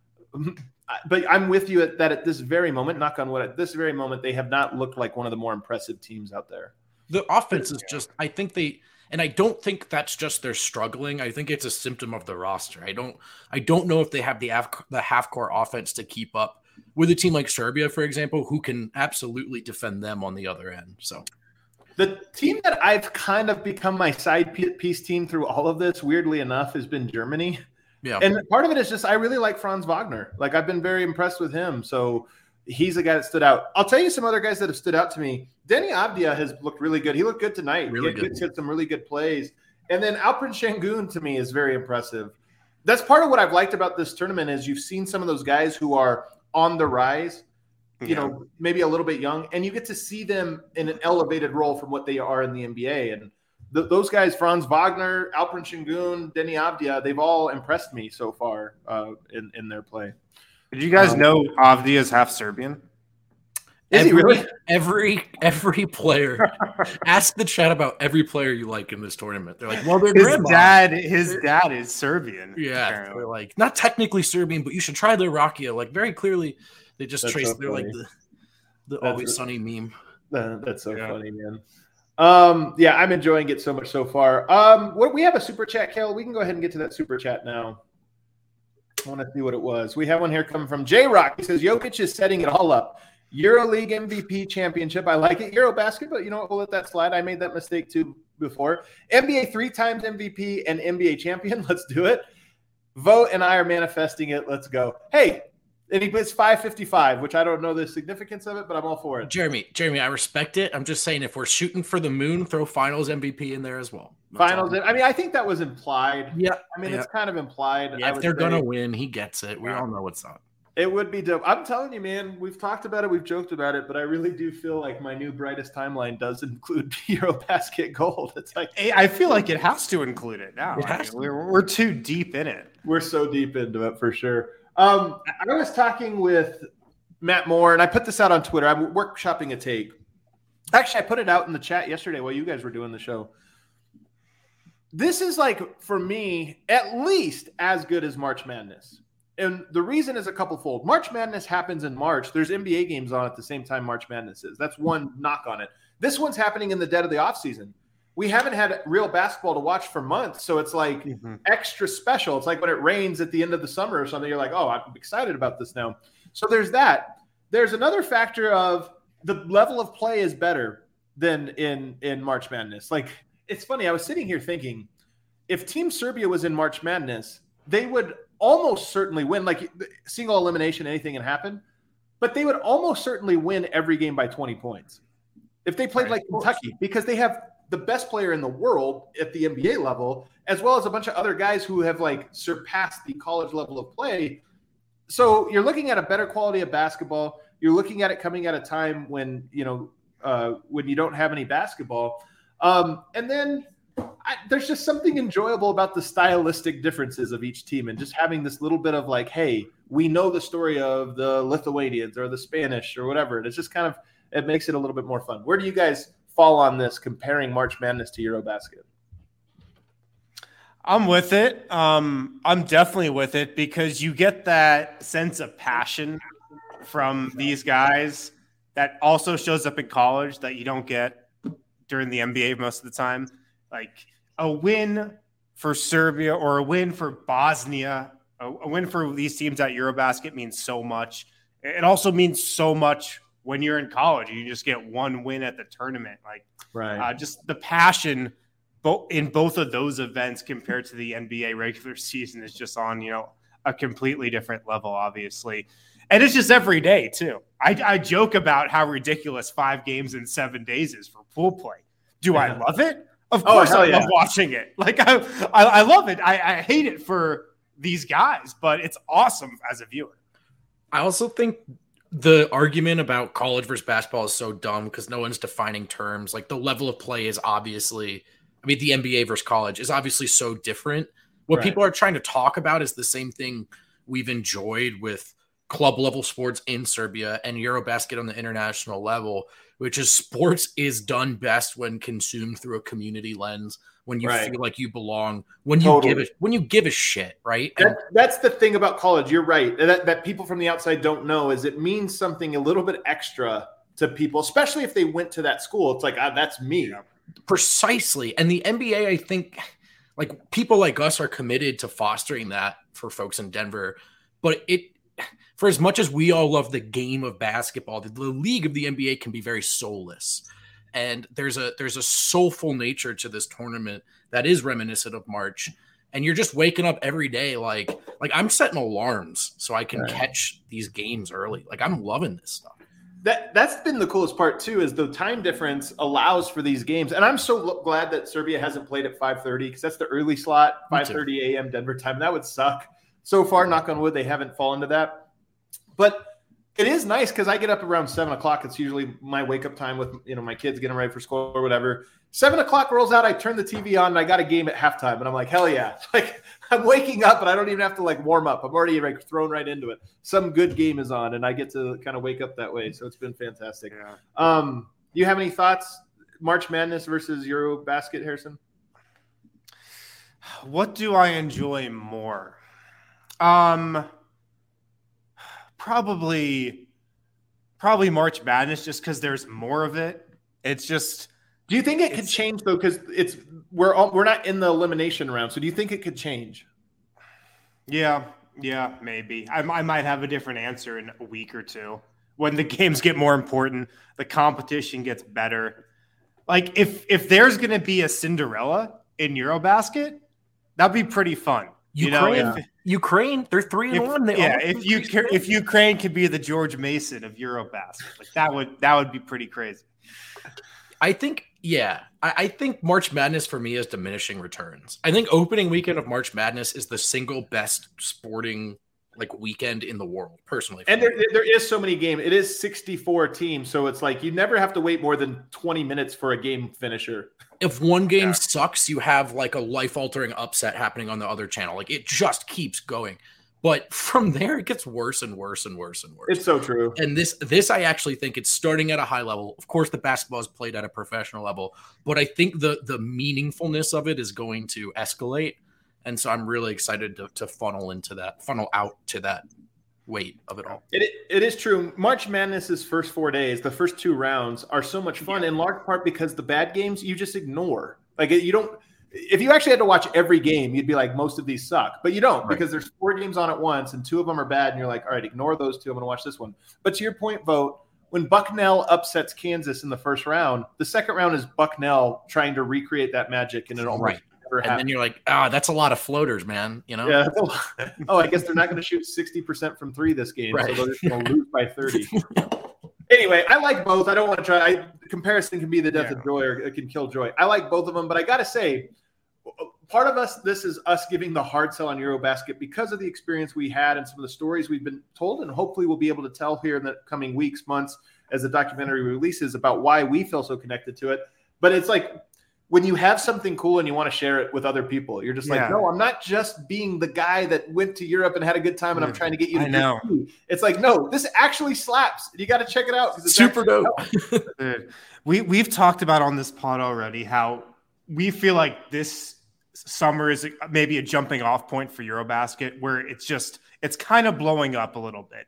but I'm with you at that at this very moment. Knock on wood, at this very moment, they have not looked like one of the more impressive teams out there. The offense is just, I think they, and I don't think that's just they're struggling. I think it's a symptom of the roster. I don't, I don't know if they have the the half court offense to keep up with a team like Serbia, for example, who can absolutely defend them on the other end. So. The team that I've kind of become my side piece team through all of this, weirdly enough, has been Germany. Yeah. And part of it is just I really like Franz Wagner. Like I've been very impressed with him. So he's a guy that stood out. I'll tell you some other guys that have stood out to me. Denny Avdia has looked really good. He looked good tonight. Really he good. He had some really good plays. And then Alperen Şengün to me is very impressive. That's part of what I've liked about this tournament is you've seen some of those guys who are on the rise, you yeah. know, maybe a little bit young, and you get to see them in an elevated role from what they are in the N B A. And th- those guys, Franz Wagner, Alperen Şengün, Denny Avdia, they've all impressed me so far uh, in, in their play. Did you guys um, know Avdia is half Serbian? Is every, he really? Every every player. Ask the chat about every player you like in this tournament. They're like, well, their his grandma. dad, his dad is Serbian. Yeah, apparently. they're like not technically Serbian, but you should try their Rakia. Like very clearly, they just That's trace. so they're like the the that's Always a, Sunny meme. Uh, that's so yeah. funny, man. Um, yeah, I'm enjoying it so much so far. Um, what we have a super chat, Kel. We can go ahead and get to that super chat now. I want to see what it was. We have one here coming from J Rock. He says Jokic is setting it all up. EuroLeague M V P championship. I like it. Eurobasket, but you know what? We'll let that slide. I made that mistake too before. N B A three times M V P and N B A champion. Let's do it. Vote and I are manifesting it. Let's go. Hey, and he puts five fifty-five, which I don't know the significance of it, but I'm all for it. Jeremy, Jeremy, I respect it. I'm just saying if we're shooting for the moon, throw finals M V P in there as well. That's finals. I mean, I think that was implied. Yeah. I mean, yeah. it's kind of implied. Yeah, if they're going to win, he gets it. We yeah. all know what's up. It would be dope. I'm telling you, man, we've talked about it. We've joked about it, but I really do feel like my new brightest timeline does include Eurobasket gold. It's like I feel like it has to include it now. It I mean, we're, we're too deep in it. We're so deep into it for sure. Um, I was talking with Matt Moore, and I put this out on Twitter. I'm workshopping a take. Actually, I put it out in the chat yesterday while you guys were doing the show. This is like, for me, at least as good as March Madness. And the reason is a couple fold. March Madness happens in March. There's N B A games on at the same time March Madness is. That's one knock on it. This one's happening in the dead of the offseason. We haven't had real basketball to watch for months, so it's like mm-hmm. extra special. It's like when it rains at the end of the summer or something. You're like, oh, I'm excited about this now. So there's that. There's another factor of the level of play is better than in, in March Madness. Like, it's funny. I was sitting here thinking, if Team Serbia was in March Madness, they would almost certainly win. Like single elimination, anything can happen, but they would almost certainly win every game by twenty points if they played right, like Kentucky, because they have the best player in the world at the N B A level, as well as a bunch of other guys who have like surpassed the college level of play. So you're looking at a better quality of basketball. You're looking at it coming at a time when, you know, uh, when you don't have any basketball. Um, and then I, there's just something enjoyable about the stylistic differences of each team and just having this little bit of like, hey, we know the story of the Lithuanians or the Spanish or whatever. And it's just kind of, it makes it a little bit more fun. Where do you guys fall on this comparing March Madness to Eurobasket? I'm with it. Um, I'm definitely with it because you get that sense of passion from these guys that also shows up in college that you don't get during the N B A most of the time. Like a win for Serbia or a win for Bosnia, a, a win for these teams at Eurobasket means so much. It also means so much when you're in college. You just get one win at the tournament. Like, right. uh, just the passion bo- in both of those events compared to the N B A regular season is just on, you know, a completely different level, obviously. And it's just every day, too. I, I joke about how ridiculous five games in seven days is for pool play. Do yeah. I love it? Of course oh, I yeah. love watching it. Like, I, I, I love it. I, I hate it for these guys, but it's awesome as a viewer. I also think the argument about college versus basketball is so dumb because no one's defining terms. Like, the level of play is obviously, I mean, the N B A versus college is obviously so different. What right. people are trying to talk about is the same thing we've enjoyed with club level sports in Serbia and Eurobasket on the international level, which is sports is done best when consumed through a community lens, when you right. feel like you belong, when you totally. give a, when you give a shit, right? That, and, that's the thing about college. You're right. That, that people from the outside don't know is it means something a little bit extra to people, especially if they went to that school. It's like, ah, that's me. Precisely. And the N B A, I think, like people like us are committed to fostering that for folks in Denver. But it, for as much as we all love the game of basketball, the, the league of the N B A can be very soulless. And there's a there's a soulful nature to this tournament that is reminiscent of March. And you're just waking up every day like like I'm setting alarms so I can right. catch these games early. Like I'm loving this stuff. That that's been the coolest part too, is the time difference allows for these games. And I'm so glad that Serbia hasn't played at five thirty because that's the early slot, five thirty a.m. Denver time. That would suck. So far, knock on wood, they haven't fallen to that. But it is nice because I get up around seven o'clock. It's usually my wake up time with you know my kids getting ready for school or whatever. Seven o'clock rolls out. I turn the T V on and I got a game at halftime, and I'm like, hell yeah! Like I'm waking up and I don't even have to like warm up. I'm already like thrown right into it. Some good game is on, and I get to kind of wake up that way. So it's been fantastic. Yeah. Um, do you have any thoughts? March Madness versus Eurobasket, Harrison? What do I enjoy more? Um. Probably, probably March Madness, just because there's more of it. It's just. Do you think it could change though? Because it's we're all, we're not in the elimination round, so do you think it could change? Yeah, yeah, maybe. I, I might have a different answer in a week or two when the games get more important, the competition gets better. Like if if there's going to be a Cinderella in Eurobasket, that'd be pretty fun. Ukraine, you know, if, Ukraine, they're three and if, one. They yeah, if you if Ukraine could be the George Mason of Eurobasket, like that would that would be pretty crazy. I think, yeah, I, I think March Madness for me is diminishing returns. I think opening weekend of March Madness is the single best sporting like weekend in the world, personally. And there, there is so many games. It is sixty-four teams, so it's like you never have to wait more than twenty minutes for a game finisher. If one game yeah. sucks, you have like a life-altering upset happening on the other channel. Like it just keeps going. But from there, it gets worse and worse and worse and worse. It's so true. And this, this I actually think it's starting at a high level. Of course, the basketball is played at a professional level, but I think the the meaningfulness of it is going to escalate. And so I'm really excited to, to funnel into that, funnel out to that weight of it all. It It is true. March Madness's first four days, the first two rounds are so much fun, yeah. in large part because the bad games you just ignore. Like you don't. If you actually had to watch every game, you'd be like, most of these suck. But you don't right. because there's four games on at once and two of them are bad. And you're like, all right, ignore those two. I'm going to watch this one. But to your point, Vogt, when Bucknell upsets Kansas in the first round, the second round is Bucknell trying to recreate that magic. And it almost right. never happens. And then you're like, ah, oh, that's a lot of floaters, man. You know? Yeah. Oh, I guess they're not going to shoot sixty percent from three this game. Right. So they're just going to lose by thirty. Anyway, I like both. I don't want to try. I, comparison can be the death yeah. of joy or it can kill joy. I like both of them. But I got to say, part of us, this is us giving the hard sell on Eurobasket because of the experience we had and some of the stories we've been told, and hopefully we'll be able to tell here in the coming weeks, months, as the documentary releases about why we feel so connected to it. But it's like when you have something cool and you want to share it with other people, you're just yeah. like, no, I'm not just being the guy that went to Europe and had a good time and I'm trying to get you to I know. Do. It's like, no, this actually slaps. You got to check it out. It's super dope. Dude, we, we've talked about on this pod already how we feel like this summer is maybe a jumping off point for Eurobasket where it's just, it's kind of blowing up a little bit.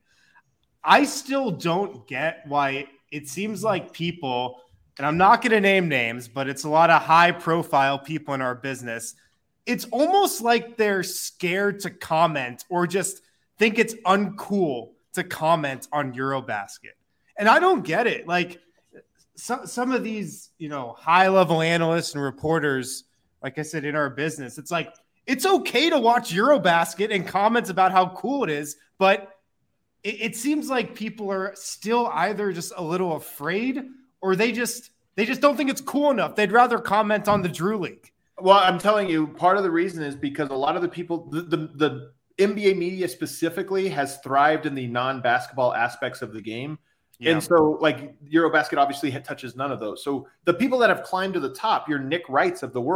I still don't get why it seems like people, and I'm not going to name names, but it's a lot of high profile people in our business. It's almost like they're scared to comment or just think it's uncool to comment on Eurobasket. And I don't get it. Like some, some of these, you know, high level analysts and reporters, like I said, in our business, it's like, it's okay to watch Eurobasket and comments about how cool it is, but it, it seems like people are still either just a little afraid or they just, they just don't think it's cool enough. They'd rather comment on the Drew League. Well, I'm telling you, part of the reason is because a lot of the people, the, the, the N B A media specifically has thrived in the non-basketball aspects of the game. Yeah. And so, like, Eurobasket obviously touches none of those. So the people that have climbed to the top, your Nick Wrights of the world,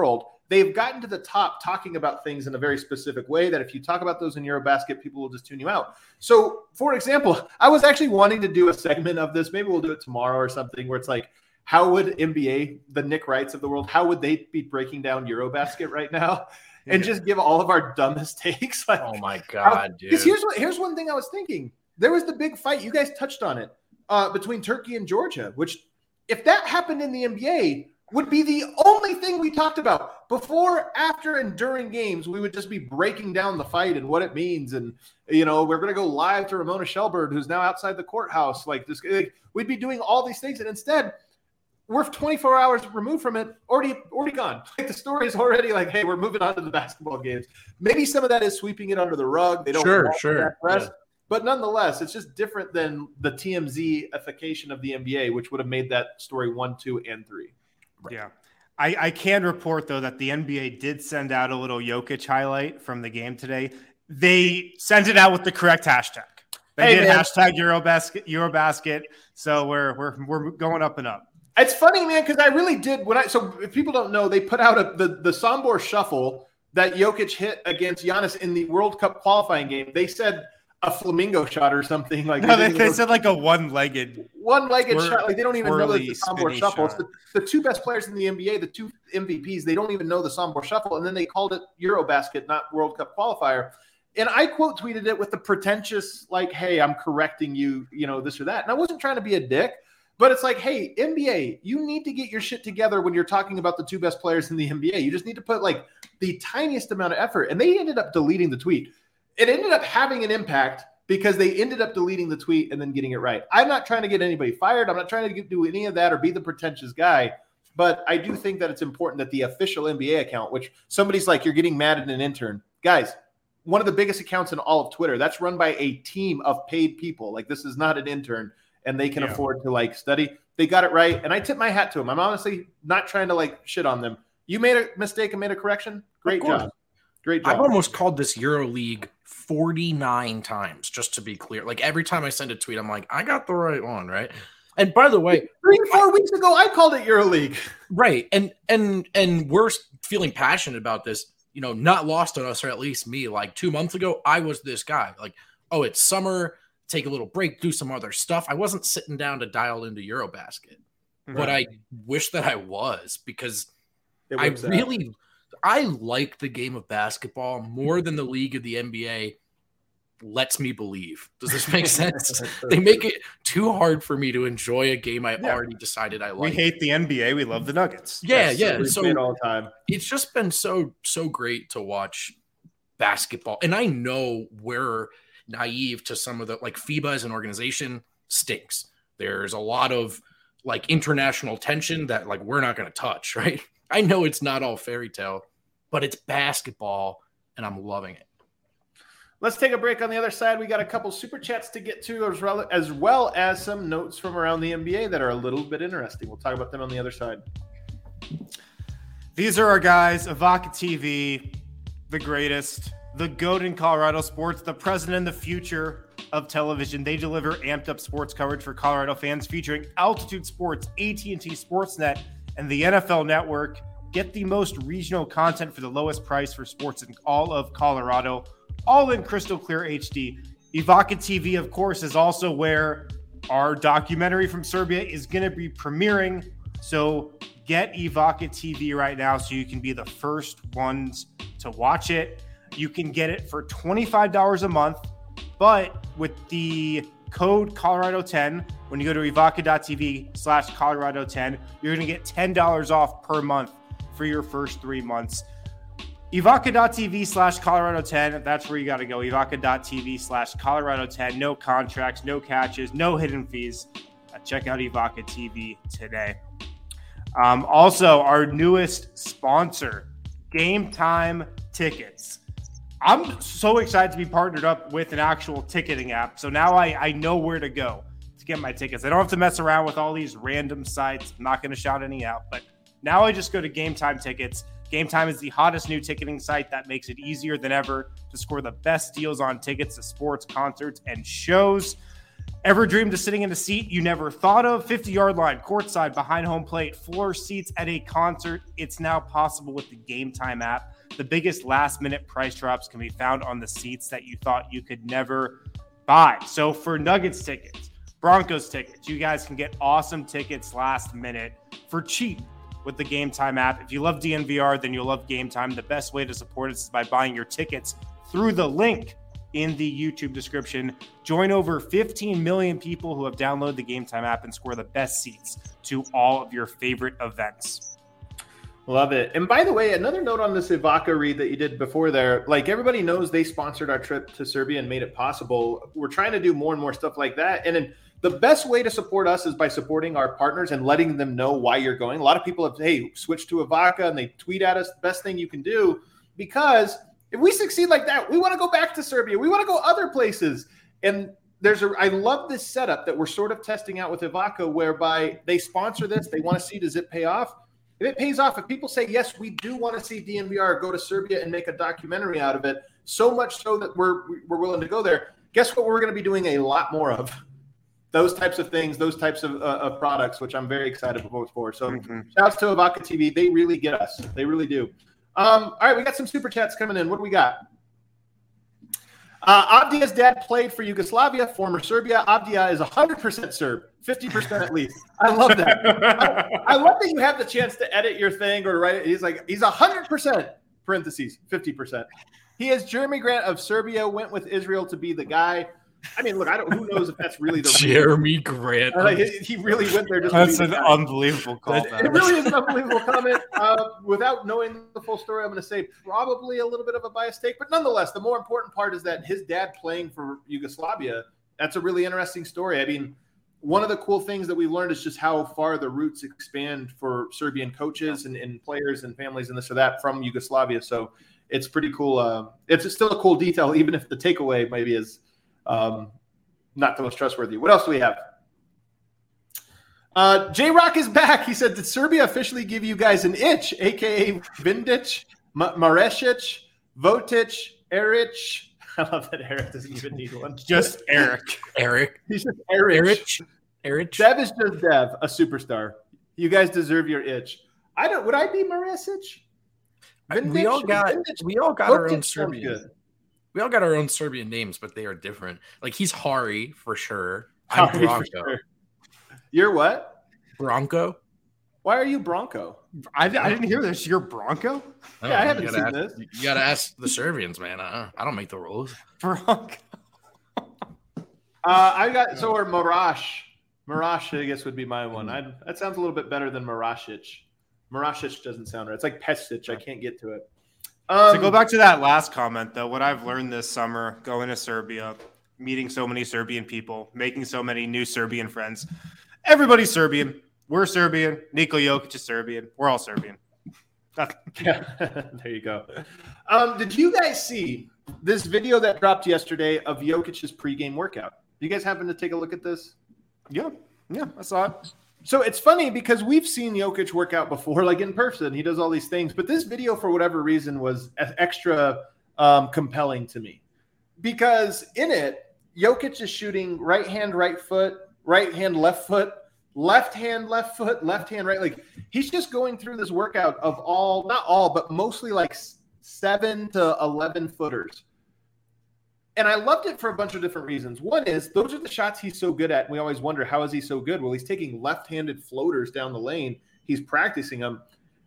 they've gotten to the top talking about things in a very specific way that if you talk about those in Eurobasket, people will just tune you out. So, for example, I was actually wanting to do a segment of this. Maybe we'll do it tomorrow or something where it's like, how would N B A, the Nick Wrights of the world, how would they be breaking down Eurobasket right now? And yeah. just give all of our dumbest takes. Like, oh, my God, dude. Because here's, what, here's one thing I was thinking. There was the big fight. You guys touched on it uh, between Turkey and Georgia, which if that happened in the N B A – would be the only thing we talked about. Before, after, and during games, we would just be breaking down the fight and what it means. And, you know, we're going to go live to Ramona Shelburne, who's now outside the courthouse. Like, this, like, we'd be doing all these things. And instead, we're twenty-four hours removed from it, already already gone. Like, the story is already like, hey, we're moving on to the basketball games. Maybe some of that is sweeping it under the rug. They don't sure, sure. press. Yeah. But nonetheless, it's just different than the T M Z-ification of the N B A, which would have made that story one, two, and three. Right. Yeah. I, I can report, though, that the N B A did send out a little Jokic highlight from the game today. They sent it out with the correct hashtag. They hey, did man. hashtag Eurobasket, Eurobasket. So we're we're we're going up and up. It's funny, man, because I really did when I so if people don't know, they put out a, the the Sombor shuffle that Jokic hit against Giannis in the World Cup qualifying game. They said a flamingo shot or something like. No, they, they said like a one-legged, one-legged twir- shot. Like they don't even know the Sombor shuffle. It's the, the two best players in the N B A, the two M V Ps. They don't even know the Sombor shuffle, and then they called it Eurobasket, not World Cup qualifier. And I quote tweeted it with the pretentious, like, "Hey, I'm correcting you, you know, this or that." And I wasn't trying to be a dick, but it's like, "Hey, N B A, you need to get your shit together when you're talking about the two best players in the N B A. You just need to put like the tiniest amount of effort." And they ended up deleting the tweet. It ended up having an impact, because they ended up deleting the tweet and then getting it right. I'm not trying to get anybody fired. I'm not trying to get, do any of that or be the pretentious guy. But I do think that it's important that the official N B A account, which somebody's like, you're getting mad at an intern. Guys, one of the biggest accounts in all of Twitter, that's run by a team of paid people. Like, this is not an intern, and they can yeah. afford to, like, study. They got it right, and I tip my hat to them. I'm honestly not trying to, like, shit on them. You made a mistake and made a correction? Great job. Great job. I've almost called this EuroLeague forty-nine times, just to be clear. Like, every time I send a tweet, I'm like, I got the right one, right? And by the way, three, four I, weeks ago, I called it EuroLeague. Right. And and and we're feeling passionate about this, you know, not lost on us, or at least me. Like two months ago, I was this guy. Like, oh, it's summer, take a little break, do some other stuff. I wasn't sitting down to dial into Eurobasket. Right. But I wish that I was, because I really out. I like the game of basketball more than the league of the N B A lets me believe. Does this make sense? They make it too hard for me to enjoy a game I yeah. already decided I like. We hate the N B A. We love the Nuggets. Yeah, yes, yeah. So all the time. It's just been so, so great to watch basketball. And I know we're naive to some of the, like, FIBA as an organization stinks. There's a lot of, like, international tension that, like, we're not going to touch, right? I know it's not all fairy tale, but it's basketball, and I'm loving it. Let's take a break. On the other side, we got a couple super chats to get to, as well, as well as some notes from around the N B A that are a little bit interesting. We'll talk about them on the other side. These are our guys, Evoca T V, the greatest, the GOAT in Colorado sports, the present and the future of television. They deliver amped up sports coverage for Colorado fans, featuring Altitude Sports, A T and T Sportsnet, and the N F L Network. Get the most regional content for the lowest price for sports in all of Colorado, all in crystal clear H D. Evoca T V, of course, is also where our documentary from Serbia is going to be premiering. So get Evoca T V right now so you can be the first ones to watch it. You can get it for twenty-five dollars a month, but with the code Colorado ten, when you go to evoca.tv slash Colorado 10, you're going to get ten dollars off per month for your first three months. Evoca.tv slash Colorado 10. That's where you got to go. Evoca.tv slash Colorado 10. No contracts, no catches, no hidden fees. Uh, check out Evoca T V today. Um, also, our newest sponsor, Game Time Tickets. I'm so excited to be partnered up with an actual ticketing app. So now I, I know where to go to get my tickets. I don't have to mess around with all these random sites. I'm not going to shout any out, but now I just go to Game Time Tickets. Game Time is the hottest new ticketing site that makes it easier than ever to score the best deals on tickets to sports, concerts, and shows. Ever dreamed of sitting in a seat you never thought of? fifty-yard line, courtside, behind home plate, floor seats at a concert. It's now possible with the Game Time app. The biggest last-minute price drops can be found on the seats that you thought you could never buy. So for Nuggets tickets, Broncos tickets, you guys can get awesome tickets last minute for cheap with the Game Time app. If you love D N V R, then you'll love Game Time. The best way to support us is by buying your tickets through the link in the YouTube description. Join over fifteen million people who have downloaded the Game Time app and score the best seats to all of your favorite events. Love it. And by the way, another note on this Ivaka read that you did before there, like everybody knows they sponsored our trip to Serbia and made it possible. We're trying to do more and more stuff like that. And then the best way to support us is by supporting our partners and letting them know why you're going. A lot of people have, hey, switch to Ivaka, and they tweet at us. The best thing you can do, because if we succeed like that, we want to go back to Serbia. We want to go other places. And there's a, I love this setup that we're sort of testing out with Ivaka, whereby they sponsor this. They want to see, does it pay off? If it pays off, if people say, yes, we do want to see D N V R go to Serbia and make a documentary out of it, so much so that we're we're willing to go there, guess what we're going to be doing a lot more of? Those types of things, those types of, uh, of products, which I'm very excited for. So mm-hmm. Shouts to Ivaka T V. They really get us. They really do. Um, all right, we got some super chats coming in. What do we got? Uh, Avdija's dad played for Yugoslavia, former Serbia. Avdija is one hundred percent Serb, fifty percent at least. I love that. I, I love that you have the chance to edit your thing or write it. He's like, he's one hundred percent, parentheses, fifty percent. He is Jeremy Grant of Serbia, went with Israel to be the guy. I mean, look, I don't. Who knows if that's really the Jeremy real. Grant? Uh, he, he really went there. Just that's to an the unbelievable comment. It really is an unbelievable comment. Uh, without knowing the full story, I'm going to say probably a little bit of a biased take, but nonetheless, the more important part is that his dad playing for Yugoslavia. That's a really interesting story. I mean, one of the cool things that we learned is just how far the roots expand for Serbian coaches and, and players and families and this or that from Yugoslavia. So it's pretty cool. Uh, it's still a cool detail, even if the takeaway maybe is um, not the most trustworthy. What else do we have? Uh, J-Rock is back. He said, did Serbia officially give you guys an itch, a k a. Vindic, M- Maresic, Votic, Eric? I love that Eric doesn't even need one. Just Eric. Eric. He's just Eric. Eric. Eric. Dev is just Dev, a superstar. You guys deserve your itch. I don't. Would I be Maresic? Vindic, we all got. Vindic, we all got Votic our own Serbian. We all got our own Serbian names, but they are different. Like he's Hari for sure. I'm Hari Bronco. Sure. You're what? Bronco. Why are you Bronco? I, I didn't hear this. You're Bronco? Oh, yeah, I haven't seen ask, this. You got to ask the Serbians, man. I, I don't make the rules. Bronco. uh, I got so or Marash. Marash, I guess, would be my one. I'd, that sounds a little bit better than Marasic. Marasic doesn't sound right. It's like Pesic. I can't get to it. Um, to go back to that last comment, though, what I've learned this summer going to Serbia, meeting so many Serbian people, making so many new Serbian friends. Everybody's Serbian. We're Serbian. Niko Jokic is Serbian. We're all Serbian. Yeah, there you go. Um, did you guys see this video that dropped yesterday of Jokic's pregame workout? Do you guys happen to take a look at this? Yeah, yeah, I saw it. So it's funny because we've seen Jokic work out before, like in person. He does all these things. But this video, for whatever reason, was extra um, compelling to me. Because in it, Jokic is shooting right hand, right foot, right hand, left foot, left hand, left foot, left hand, right. Like he's just going through this workout of all, not all, but mostly like seven to eleven footers. And I loved it for a bunch of different reasons. One is those are the shots he's so good at. And we always wonder, how is he so good? Well, he's taking left-handed floaters down the lane. He's practicing them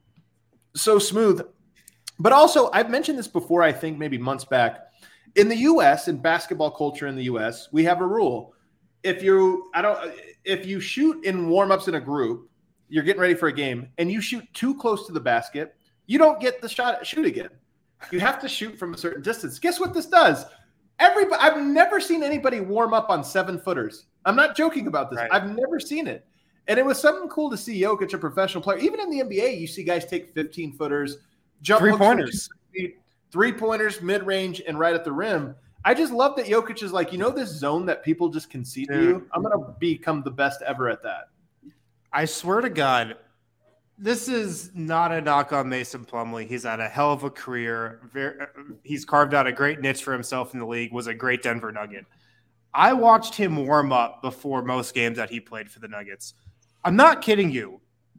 so smooth. But also, I've mentioned this before, I think maybe months back. In the U S, in basketball culture in the U S, we have a rule. If you I don't if you shoot in warm-ups in a group, you're getting ready for a game, and you shoot too close to the basket, you don't get the shot shoot again. You have to shoot from a certain distance. Guess what this does? Everybody, I've never seen anybody warm up on seven footers. I'm not joking about this. Right. I've never seen it. And it was something cool to see Jokic, a professional player. Even in the N B A, you see guys take fifteen footers, jump three pointers, three pointers, mid range, and right at the rim. I just love that Jokic is like, you know, this zone that people just concede to you. I'm going to become the best ever at that. I swear to God, this is not a knock on Mason Plumlee. He's had a hell of a career. Very, he's carved out a great niche for himself in the league, was a great Denver Nugget. I watched him warm up before most games that he played for the Nuggets. I'm not kidding you.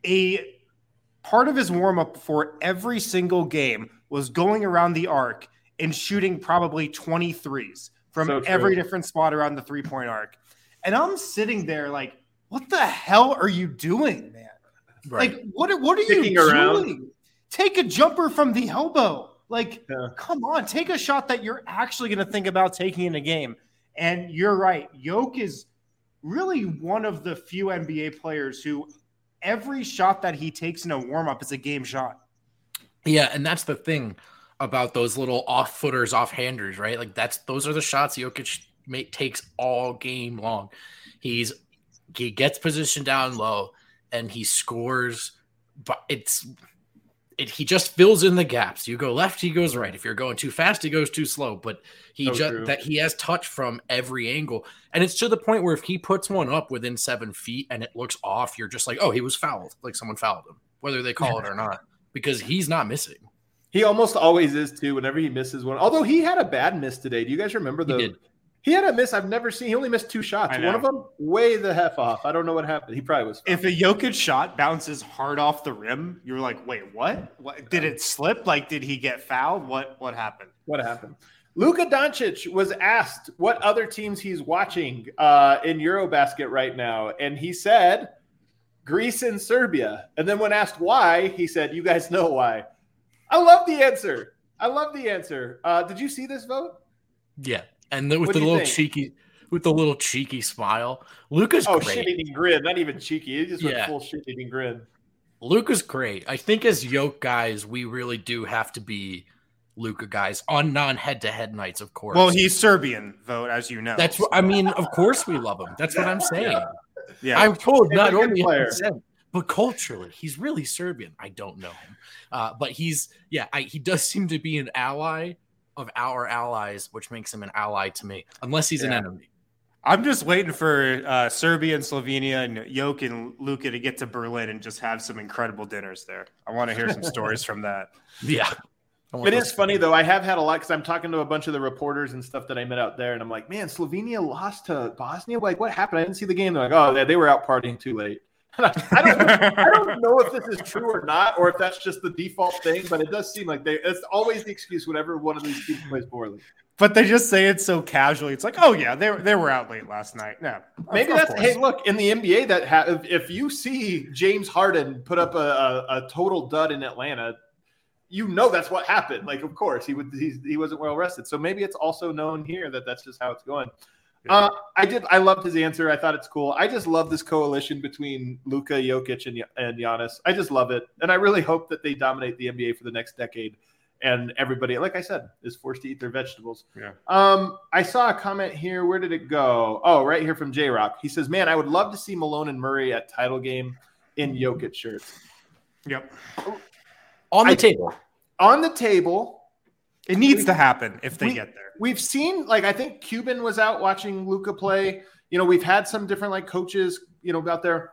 A part of his warm up before every single game was going around the arc and shooting probably twenty-threes from so every different spot around the three-point arc. And I'm sitting there like, what the hell are you doing, man? Right. Like, what, what are Kicking you around. doing? Take a jumper from the elbow. Like, yeah. come on, take a shot that you're actually going to think about taking in a game. And you're right. Yoke is really one of the few N B A players who every shot that he takes in a warm-up is a game shot. Yeah, and that's the thing about those little off-footers, off-handers, right? Like, that's those are the shots Jokic may, takes all game long. He's he gets positioned down low, and he scores, but it's it, he just fills in the gaps. You go left, he goes right. If you're going too fast, he goes too slow. But he so just true. that he has touch from every angle, and it's to the point where if he puts one up within seven feet and it looks off, you're just like, oh, he was fouled, like someone fouled him, whether they call it or not, because he's not missing. He almost always is too. Whenever he misses one, although he had a bad miss today. Do you guys remember the? He did. He had a miss I've never seen. He only missed two shots. One of them way the heck off. I don't know what happened. He probably was. If a Jokic shot bounces hard off the rim, you're like, wait, what? What? Did it slip? Like, did he get fouled? What What happened? What happened? Luka Doncic was asked what other teams he's watching uh, in Eurobasket right now, and he said Greece and Serbia. And then when asked why, he said, "You guys know why." I love the answer. I love the answer. Uh, did you see this vote? Yeah. And the, with the little think? cheeky, with the little cheeky smile, Luka's oh, great. shit-eating grin, not even cheeky. He just went yeah. full shit-eating grin. Luka's great. I think as Yoke guys, we really do have to be Luka guys on non-head-to-head nights, of course. Well, he's Serbian, vote, as you know. That's what I mean. Of course, we love him. That's what I'm saying. Yeah, yeah. I'm told not only percent, but culturally, he's really Serbian. I don't know him, uh, but he's yeah. I, he does seem to be an ally of our allies, which makes him an ally to me, unless he's yeah. an enemy. I'm just waiting for uh, Serbia and Slovenia and Joke and Luka to get to Berlin and just have some incredible dinners there. I want to hear some stories from that. Yeah. It is funny, though. I have had a lot because I'm talking to a bunch of the reporters and stuff that I met out there, and I'm like, man, Slovenia lost to Bosnia? Like, what happened? I didn't see the game. They're like, oh, they, they were out partying too late. I don't, I don't know if this is true or not, or if that's just the default thing, but it does seem like they it's always the excuse whenever one of these teams plays poorly. But they just say it so casually. It's like, oh, yeah, they, they were out late last night. No, maybe that's – hey, look, in the N B A, that ha- if, if you see James Harden put up a, a, a total dud in Atlanta, you know that's what happened. Like, of course, he would he's, he wasn't well rested. So maybe it's also known here that that's just how it's going. Uh, I did. I loved his answer. I thought it's cool. I just love this coalition between Luka, Jokic, and and Giannis. I just love it, and I really hope that they dominate the N B A for the next decade. And everybody, like I said, is forced to eat their vegetables. Yeah. Um, I saw a comment here. Where did it go? Oh, right here from J Rock. He says, "Man, I would love to see Malone and Murray at title game in Jokic shirts." Yep. On the I, table. On the table. It needs we, to happen if they we, get there. We've seen, like, I think Cuban was out watching Luka play. You know, we've had some different, like, coaches, you know, out there.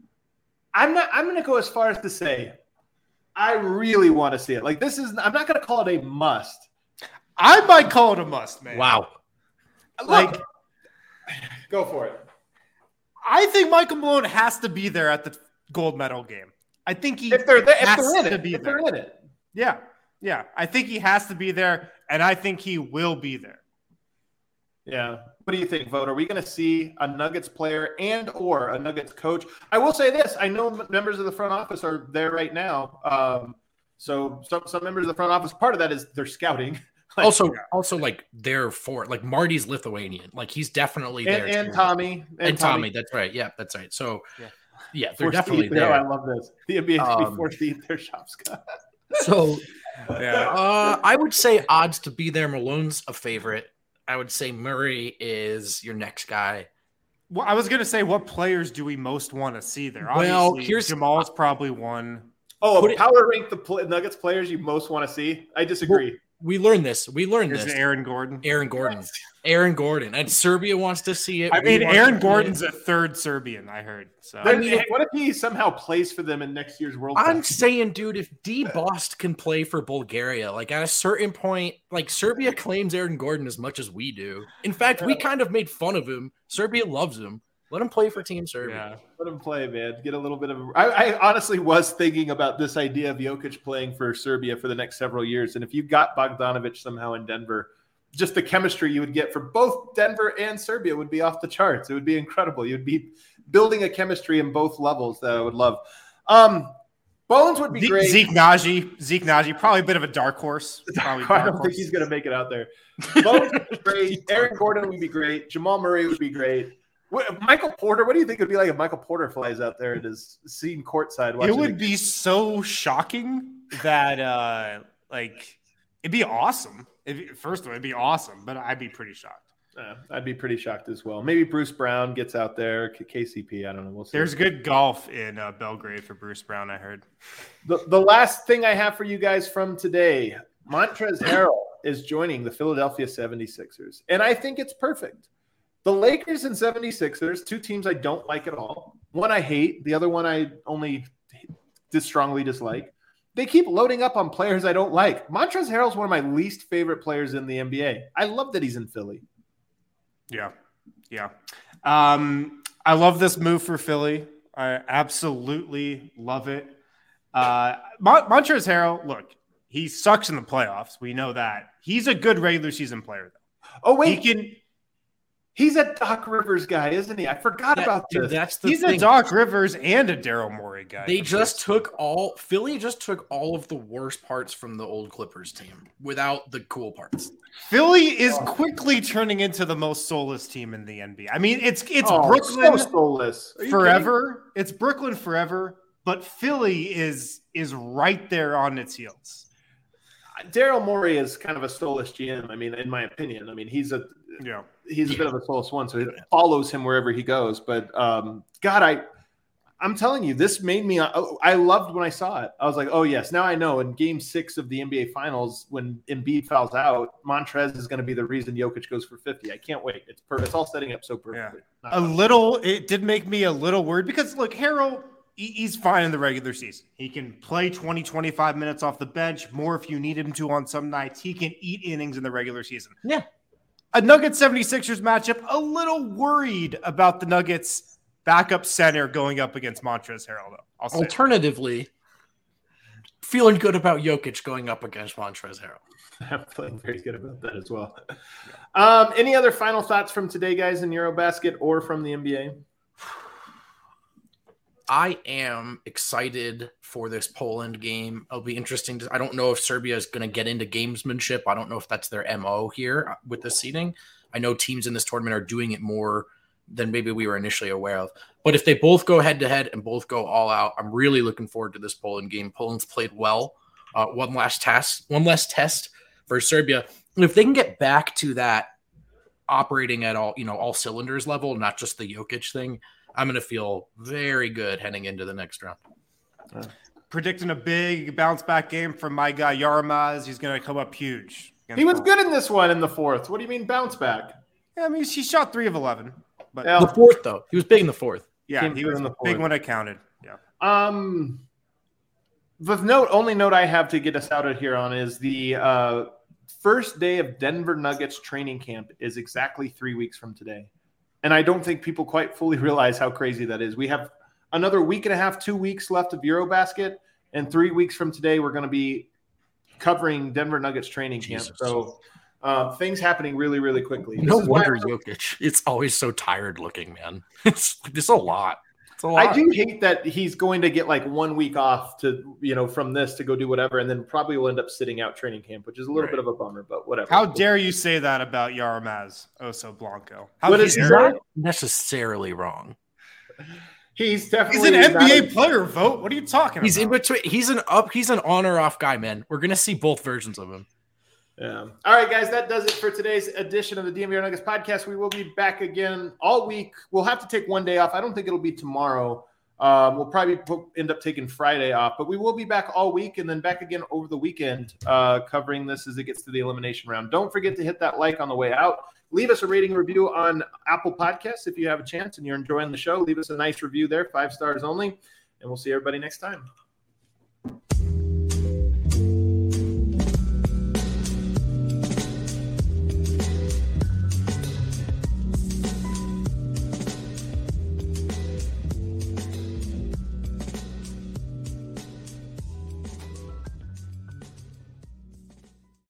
I'm not, I'm going to go as far as to say, I really want to see it. Like, this is, I'm not going to call it a must. I might call it a must, man. Wow. Like, Look, go for it. I think Michael Malone has to be there at the gold medal game. I think he if they're there, has if they're in to it, be if there. They're in it. Yeah. Yeah, I think he has to be there, and I think he will be there. Yeah. What do you think, Vote? Are we going to see a Nuggets player and or a Nuggets coach? I will say this. I know members of the front office are there right now. Um, so some, some members of the front office, part of that is they're scouting. Like, also, yeah. also like they're for like Marty's Lithuanian. Like he's definitely there. And, and Tommy. And, and Tommy. Tommy. That's right. Yeah, that's right. So, yeah, yeah they're forced definitely there. there. I love this. The N B A should um, be forced to eat their shop, Scott. So, yeah. uh, I would say odds to be there. Malone's a favorite. I would say Murray is your next guy. Well, I was going to say, what players do we most want to see there? Well, Obviously, here's Jamal's probably one. Oh, power rank the pl- Nuggets players you most want to see. I disagree. We learned this. We learned Is this. it Aaron Gordon? Aaron Gordon. Aaron Gordon. And Serbia wants to see it. I mean, Aaron Gordon's it. a third Serbian, I heard. So I mean, what if he somehow plays for them in next year's World Cup? I'm saying, dude, if D Bost can play for Bulgaria, like at a certain point, like Serbia claims Aaron Gordon as much as we do. In fact, we kind of made fun of him. Serbia loves him. Let him play for Team Serbia. Yeah. Let him play, man. Get a little bit of. I, I honestly was thinking about this idea of Jokic playing for Serbia for the next several years, and if you got Bogdanovic somehow in Denver, just the chemistry you would get for both Denver and Serbia would be off the charts. It would be incredible. You'd be building a chemistry in both levels that I would love. Um, Bones would be Zeke, great. Zeke Naji, Zeke Naji, probably a bit of a dark horse. Probably I dark don't horse. think he's going to make it out there. Bones would be great. Aaron Gordon would be great. Jamal Murray would be great. What, Michael Porter, what do you think it would be like if Michael Porter flies out there and is seen courtside? It would be so shocking that, uh, like, it'd be awesome. It'd, first of all, it'd be awesome, but I'd be pretty shocked. Uh, I'd be pretty shocked as well. Maybe Bruce Brown gets out there. K C P, I don't know. We'll see. There's good golf in uh, Belgrade for Bruce Brown, I heard. The, the last thing I have for you guys from today, Montrezl Harrell is joining the Philadelphia seventy-sixers, and I think it's perfect. The Lakers and seventy-sixers, two teams I don't like at all. One I hate, the other one I only dis- strongly dislike. They keep loading up on players I don't like. Montrezl Harrell is one of my least favorite players in the N B A. I love that he's in Philly. Yeah, yeah. Um, I love this move for Philly. I absolutely love it. Uh, Mon- Montrezl Harrell, look, he sucks in the playoffs. We know that. He's a good regular season player, though. Oh, wait. He can. He's a Doc Rivers guy, isn't he? I forgot That, about dude, this. that's the He's thing. a Doc Rivers and a Daryl Morey guy. They just took all Philly just took all of the worst parts from the old Clippers team without the cool parts. Philly is quickly turning into the most soulless team in the N B A. I mean, it's it's oh, Brooklyn so soulless. Are you forever. It's Brooklyn forever, but Philly is is right there on its heels. Daryl Morey is kind of a soulless G M. I mean, in my opinion, I mean he's a Yeah. he's a Yeah. bit of a soulless one, so it follows him wherever he goes. But um, God, I I'm telling you, this made me. I loved when I saw it. I was like, oh yes, now I know. In Game Six of the N B A Finals, when Embiid fouls out, Montrez is going to be the reason Jokic goes for fifty. I can't wait. It's perfect. It's all setting up so perfectly. Yeah. Not A fun. little, it did make me a little worried because look, Harrell, he- he's fine in the regular season. He can play twenty, twenty-five minutes off the bench, more if you need him to on some nights. He can eat innings in the regular season. Yeah. A Nuggets seventy-sixers matchup, a little worried about the Nuggets backup center going up against Montrezl Harrell, though. I'll say Alternatively, feeling good about Jokic going up against Montrezl Harrell. I'm feeling very good about that as well. Um, any other final thoughts from today, guys, in Eurobasket or from the N B A? I am excited for this Poland game. It'll be interesting. To, I don't know if Serbia is going to get into gamesmanship. I don't know if that's their M O here with the seeding. I know teams in this tournament are doing it more than maybe we were initially aware of. But if they both go head-to-head and both go all out, I'm really looking forward to this Poland game. Poland's played well. Uh, one last test, one less test for Serbia. And if they can get back to that operating at all, you know, all cylinders level, not just the Jokic thing, I'm going to feel very good heading into the next round. Uh, predicting a big bounce back game from my guy Yaramaz. He's going to come up huge. He was good in this one in the fourth. What do you mean bounce back? Yeah, I mean, he shot three of eleven. But Yeah. The fourth, though, he was big in the fourth. yeah, Came he through was in the the big fourth. one I counted. Yeah. Um, the note, only note I have to get us out of here on is the uh, first day of Denver Nuggets training camp is exactly three weeks from today. And I don't think people quite fully realize how crazy that is. We have another week and a half, two weeks left of Eurobasket, and three weeks from today, we're going to be covering Denver Nuggets training camp. Jesus. So uh, things happening really, really quickly. No This is why wonder I'm- Jokic. It's always so tired looking, man. It's it's a lot. It's a lot. I do hate that he's going to get like one week off to, you know, from this to go do whatever, and then probably will end up sitting out training camp, which is a little Right. bit of a bummer, but whatever. How dare you say that about Yaramaz Oso Blanco? How What is He's dare not necessarily wrong. He's He's definitely an N B A not- player, vote. What are you talking He's in about? between. He's an up. He's an on or off guy, man. We're gonna see both versions of him. Yeah. All right, guys, that does it for today's edition of the D M V R Nuggets podcast. We will be back again all week. We'll have to take one day off. I don't think it'll be tomorrow. Um, we'll probably put, end up taking Friday off, but we will be back all week and then back again over the weekend uh, covering this as it gets to the elimination round. Don't forget to hit that like on the way out. Leave us a rating and review on Apple Podcasts if you have a chance and you're enjoying the show. Leave us a nice review there, five stars only, and we'll see everybody next time.